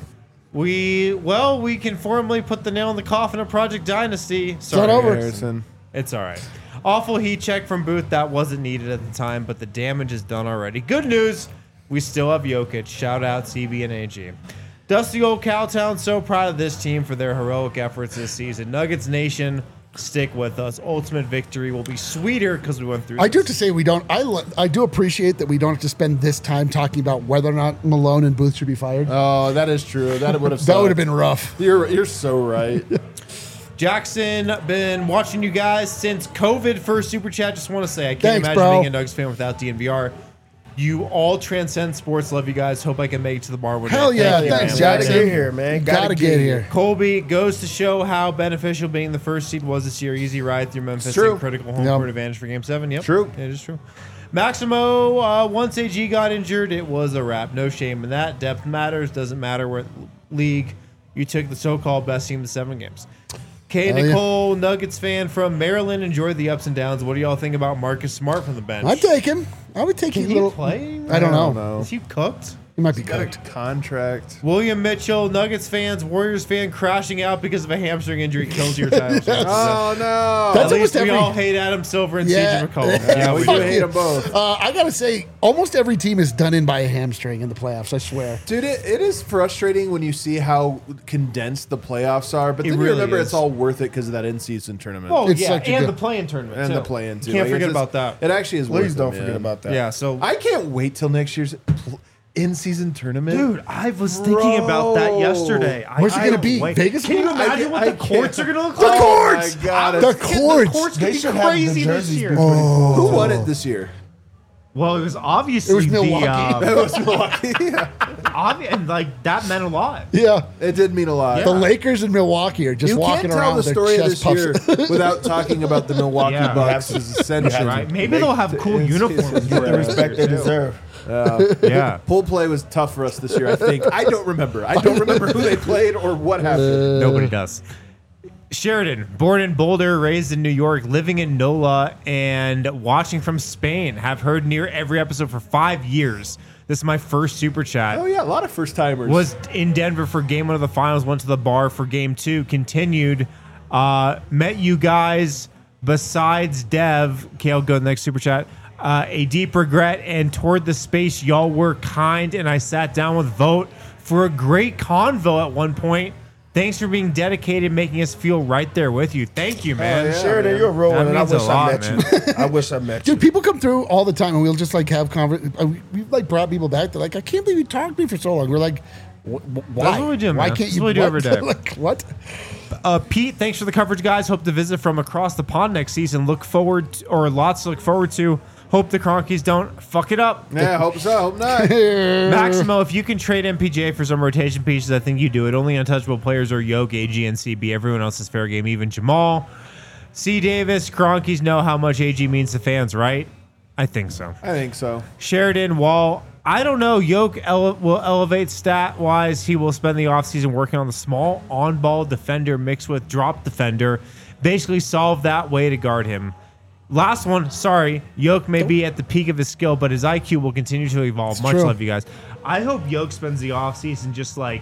we can formally put the nail in the coffin of Project Dynasty. Sorry, not over. Harrison. It's all right. Awful heat check from Booth. That wasn't needed at the time, but the damage is done already. Good news. We still have Jokic. Shout out CB and AG. Dusty Old Cowtown, so proud of this team for their heroic efforts this season. Nuggets Nation, stick with us. Ultimate victory will be sweeter because we went through I do this. have to say we don't. I do appreciate that we don't have to spend this time talking about whether or not Malone and Booth should be fired. Oh, that is true. That would have. That would have been rough. You're so right. Jackson, been watching you guys since COVID first super chat. Just want to say I can't Thanks, imagine bro. being a Nuggets fan without DNVR. You all transcend sports. Love you guys. Hope I can make it to the bar one day. Hell yeah, Thank you, thanks, man. Gotta Jackson. get here, man. Gotta get here. Colby goes to show how beneficial being the first seed was this year. Easy ride through Memphis True. and critical home Yep. court advantage for Game 7. Yep. True. It is true. Maximo, once AG got injured, it was a wrap. No shame in that. Depth matters. Doesn't matter what league you took the so-called best team to 7 games. K. Hell yeah. Nicole, Nuggets fan from Maryland, enjoyed the ups and downs. What do y'all think about Marcus Smart from the bench? I'd take him. I would take Can his he little. play? I don't know. Is he cooked? He might be Got a cooked. contract. William Mitchell, Nuggets fans, Warriors fan crashing out because of a hamstring injury kills your title chances. Oh no! That's At least almost we every- all hate Adam Silver and Yeah. CJ McCollum. yeah, we do Fuck hate you. them both. I gotta say, almost every team is done in by a hamstring in the playoffs. I swear. Dude, it is frustrating when you see how condensed the playoffs are, but It then really you remember is. it's all worth it because of that in-season tournament. Oh, It's yeah, such a and good- the play-in tournament. and too. the play-in too. Can't Like, forget it's about just- that. It actually is. Please worth don't it, forget man. about that. Yeah, so I can't wait till next year's in-season tournament. dude, I was thinking about that yesterday. Where's it I gonna don't be? wait. Vegas? Can you I imagine what the courts are gonna look The like? courts! Oh my God, The it's- courts! The courts They could be should have the crazy this jerseys year. be Who won it this year? Well, it was obviously It was Milwaukee. It was Milwaukee. Yeah. and like that meant a lot. Yeah. It did mean a lot. The Lakers and Milwaukee are just You walking can't tell around the with their story of chest this year puffs. without talking about the Milwaukee Yeah. Bucks as essential. Right? Maybe they'll have cool uniforms. Get the respect they deserve. Yeah. Pool play was tough for us this year, I think. I don't remember. I don't remember who they played or what happened. Nobody does. Sheridan, born in Boulder, raised in New York, living in NOLA, and watching from Spain. Have heard near every episode for 5 years. This is my first super chat. Oh, yeah, a lot of first-timers. Was in Denver for game 1 of the finals, went to the bar for game 2, continued, met you guys besides Dev, Kale, go to the next super chat, a deep regret, and toward the space, y'all were kind, and I sat down with Vote for a great convo at one point. Thanks for being dedicated, making us feel right there with you. Thank you, man. Sheridan, you're a real That one, and I means a wish I lot, met you. I wish I met you. Dude, people come through all the time, and we'll just like have we've like brought people back. They're like, I can't believe you talked to me for so long. We're like, Why? That's what we do, man. Why That's can't you? what we do every day. Like, what? Pete, thanks for the coverage, guys. Hope to visit from across the pond next season. Lots to look forward to. Hope the Cronkies don't fuck it up. Yeah, hope so. Hope not. Maximo, if you can trade MPJ for some rotation pieces, I think you do it. Only untouchable players are Yoke, AG, and CB. Everyone else is fair game, even Jamal. C. Davis, Cronkies know how much AG means to fans, right? I think so. I think so. Sheridan, Wall, I don't know. Yoke will elevate stat-wise. He will spend the offseason working on the small on-ball defender mixed with drop defender. Basically solve that way to guard him. Last one, sorry. Yoke may be at the peak of his skill, but his IQ will continue to evolve. Much love, you guys. I hope Yoke spends the offseason just like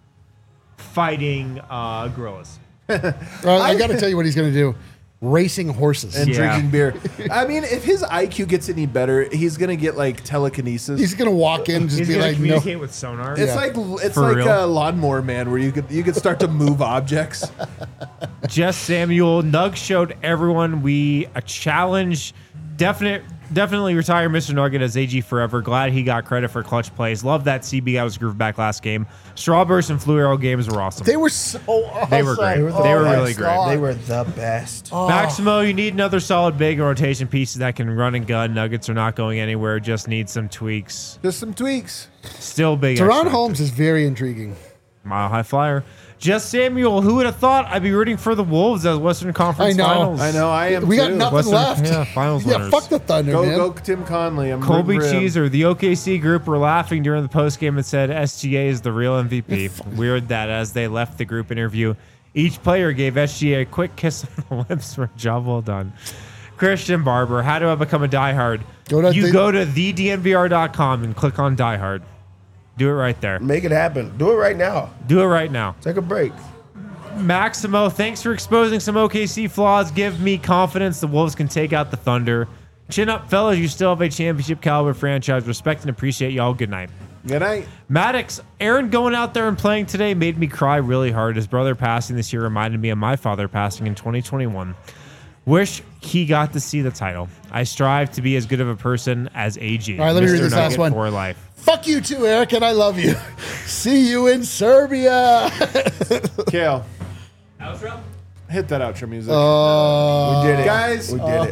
fighting gorillas. I got to tell you what he's going to do. Racing horses. And Yeah. drinking beer. I mean, if his IQ gets any better, he's gonna get like telekinesis. He's going to walk in and just He's be going to like, no. communicate with sonar. It's For like real? a Lawnmower Man, where you could start to move objects. Jess Samuel, Nug showed everyone a challenge. Definitely retire Mr. Nugget as AG forever. Glad he got credit for clutch plays. Love that CB guy was groove back last game. Strawburst and Flu Arrow games were awesome. They were so awesome. They were great. They were really great. They were the best. Maximo, you need another solid big rotation piece that can run and gun. Nuggets are not going anywhere. Just need some tweaks. Just some tweaks. Still big. Teron X-factor. Holmes is very intriguing. Mile high flyer. Jess Samuel, who would have thought I'd be rooting for the Wolves as Western Conference I know. Finals? I know. I am. We got too. nothing Western- left. yeah, finals Yeah, winners. fuck the Thunder, Go, man. go, Tim Conley. I'm Colby rooting for him. Cheeser, the OKC group were laughing during the postgame and said SGA is the real MVP. Weird that as they left the group interview, each player gave SGA a quick kiss on the lips for a job well done. Christian Barber, how do I become a diehard? Go to thednvr.com and click on diehard. Do it right there. Make it happen. Do it right now. Do it right now. Take a break. Maximo, thanks for exposing some OKC flaws. Give me confidence the Wolves can take out the Thunder. Chin up, fellas. You still have a championship caliber franchise. Respect and appreciate y'all. Good night. Good night. Maddox, Aaron going out there and playing today made me cry really hard. His brother passing this year reminded me of my father passing in 2021. Wish he got to see the title. I strive to be as good of a person as AG. All right, let me read this last Nugget one. For life. Fuck you too, Eric, and I love you. See you in Serbia. Kale, Outro? hit that outro music. We did it. Guys, We did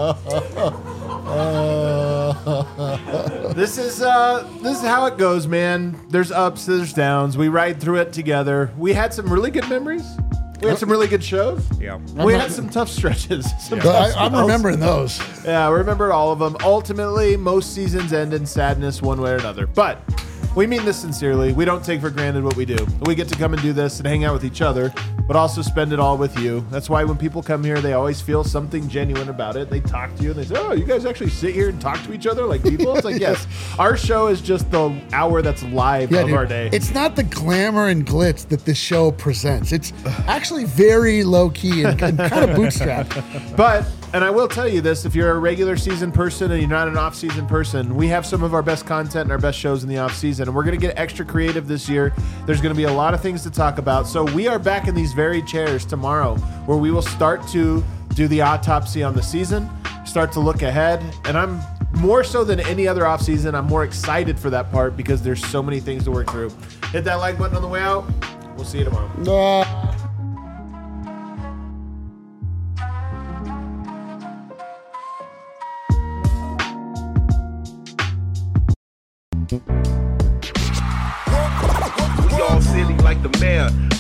it. this is how it goes, man. There's ups, there's downs. We ride through it together. We had some really good memories. We had some really good shows. Yeah. We had some tough stretches. Some tough I'm spells. remembering those. Yeah, I remember all of them. Ultimately, most seasons end in sadness one way or another. But we mean this sincerely. We don't take for granted what we do. We get to come and do this and hang out with each other, but also spend it all with you. That's why when people come here, they always feel something genuine about it. They talk to you and they say, oh, you guys actually sit here and talk to each other like people? It's like, yes, our show is just the hour that's live of dude, our day. It's not the glamour and glitz that this show presents. It's actually very low key and kind of bootstrapped. But, and I will tell you this, if you're a regular season person and you're not an off-season person, we have some of our best content and our best shows in the off-season, and we're going to get extra creative this year. There's going to be a lot of things to talk about. So we are back in these very chairs tomorrow, where we will start to do the autopsy on the season, start to look ahead, and I'm more so than any other off-season, I'm more excited for that part because there's so many things to work through. Hit that like button on the way out. We'll see you tomorrow. We all silly like the mayor.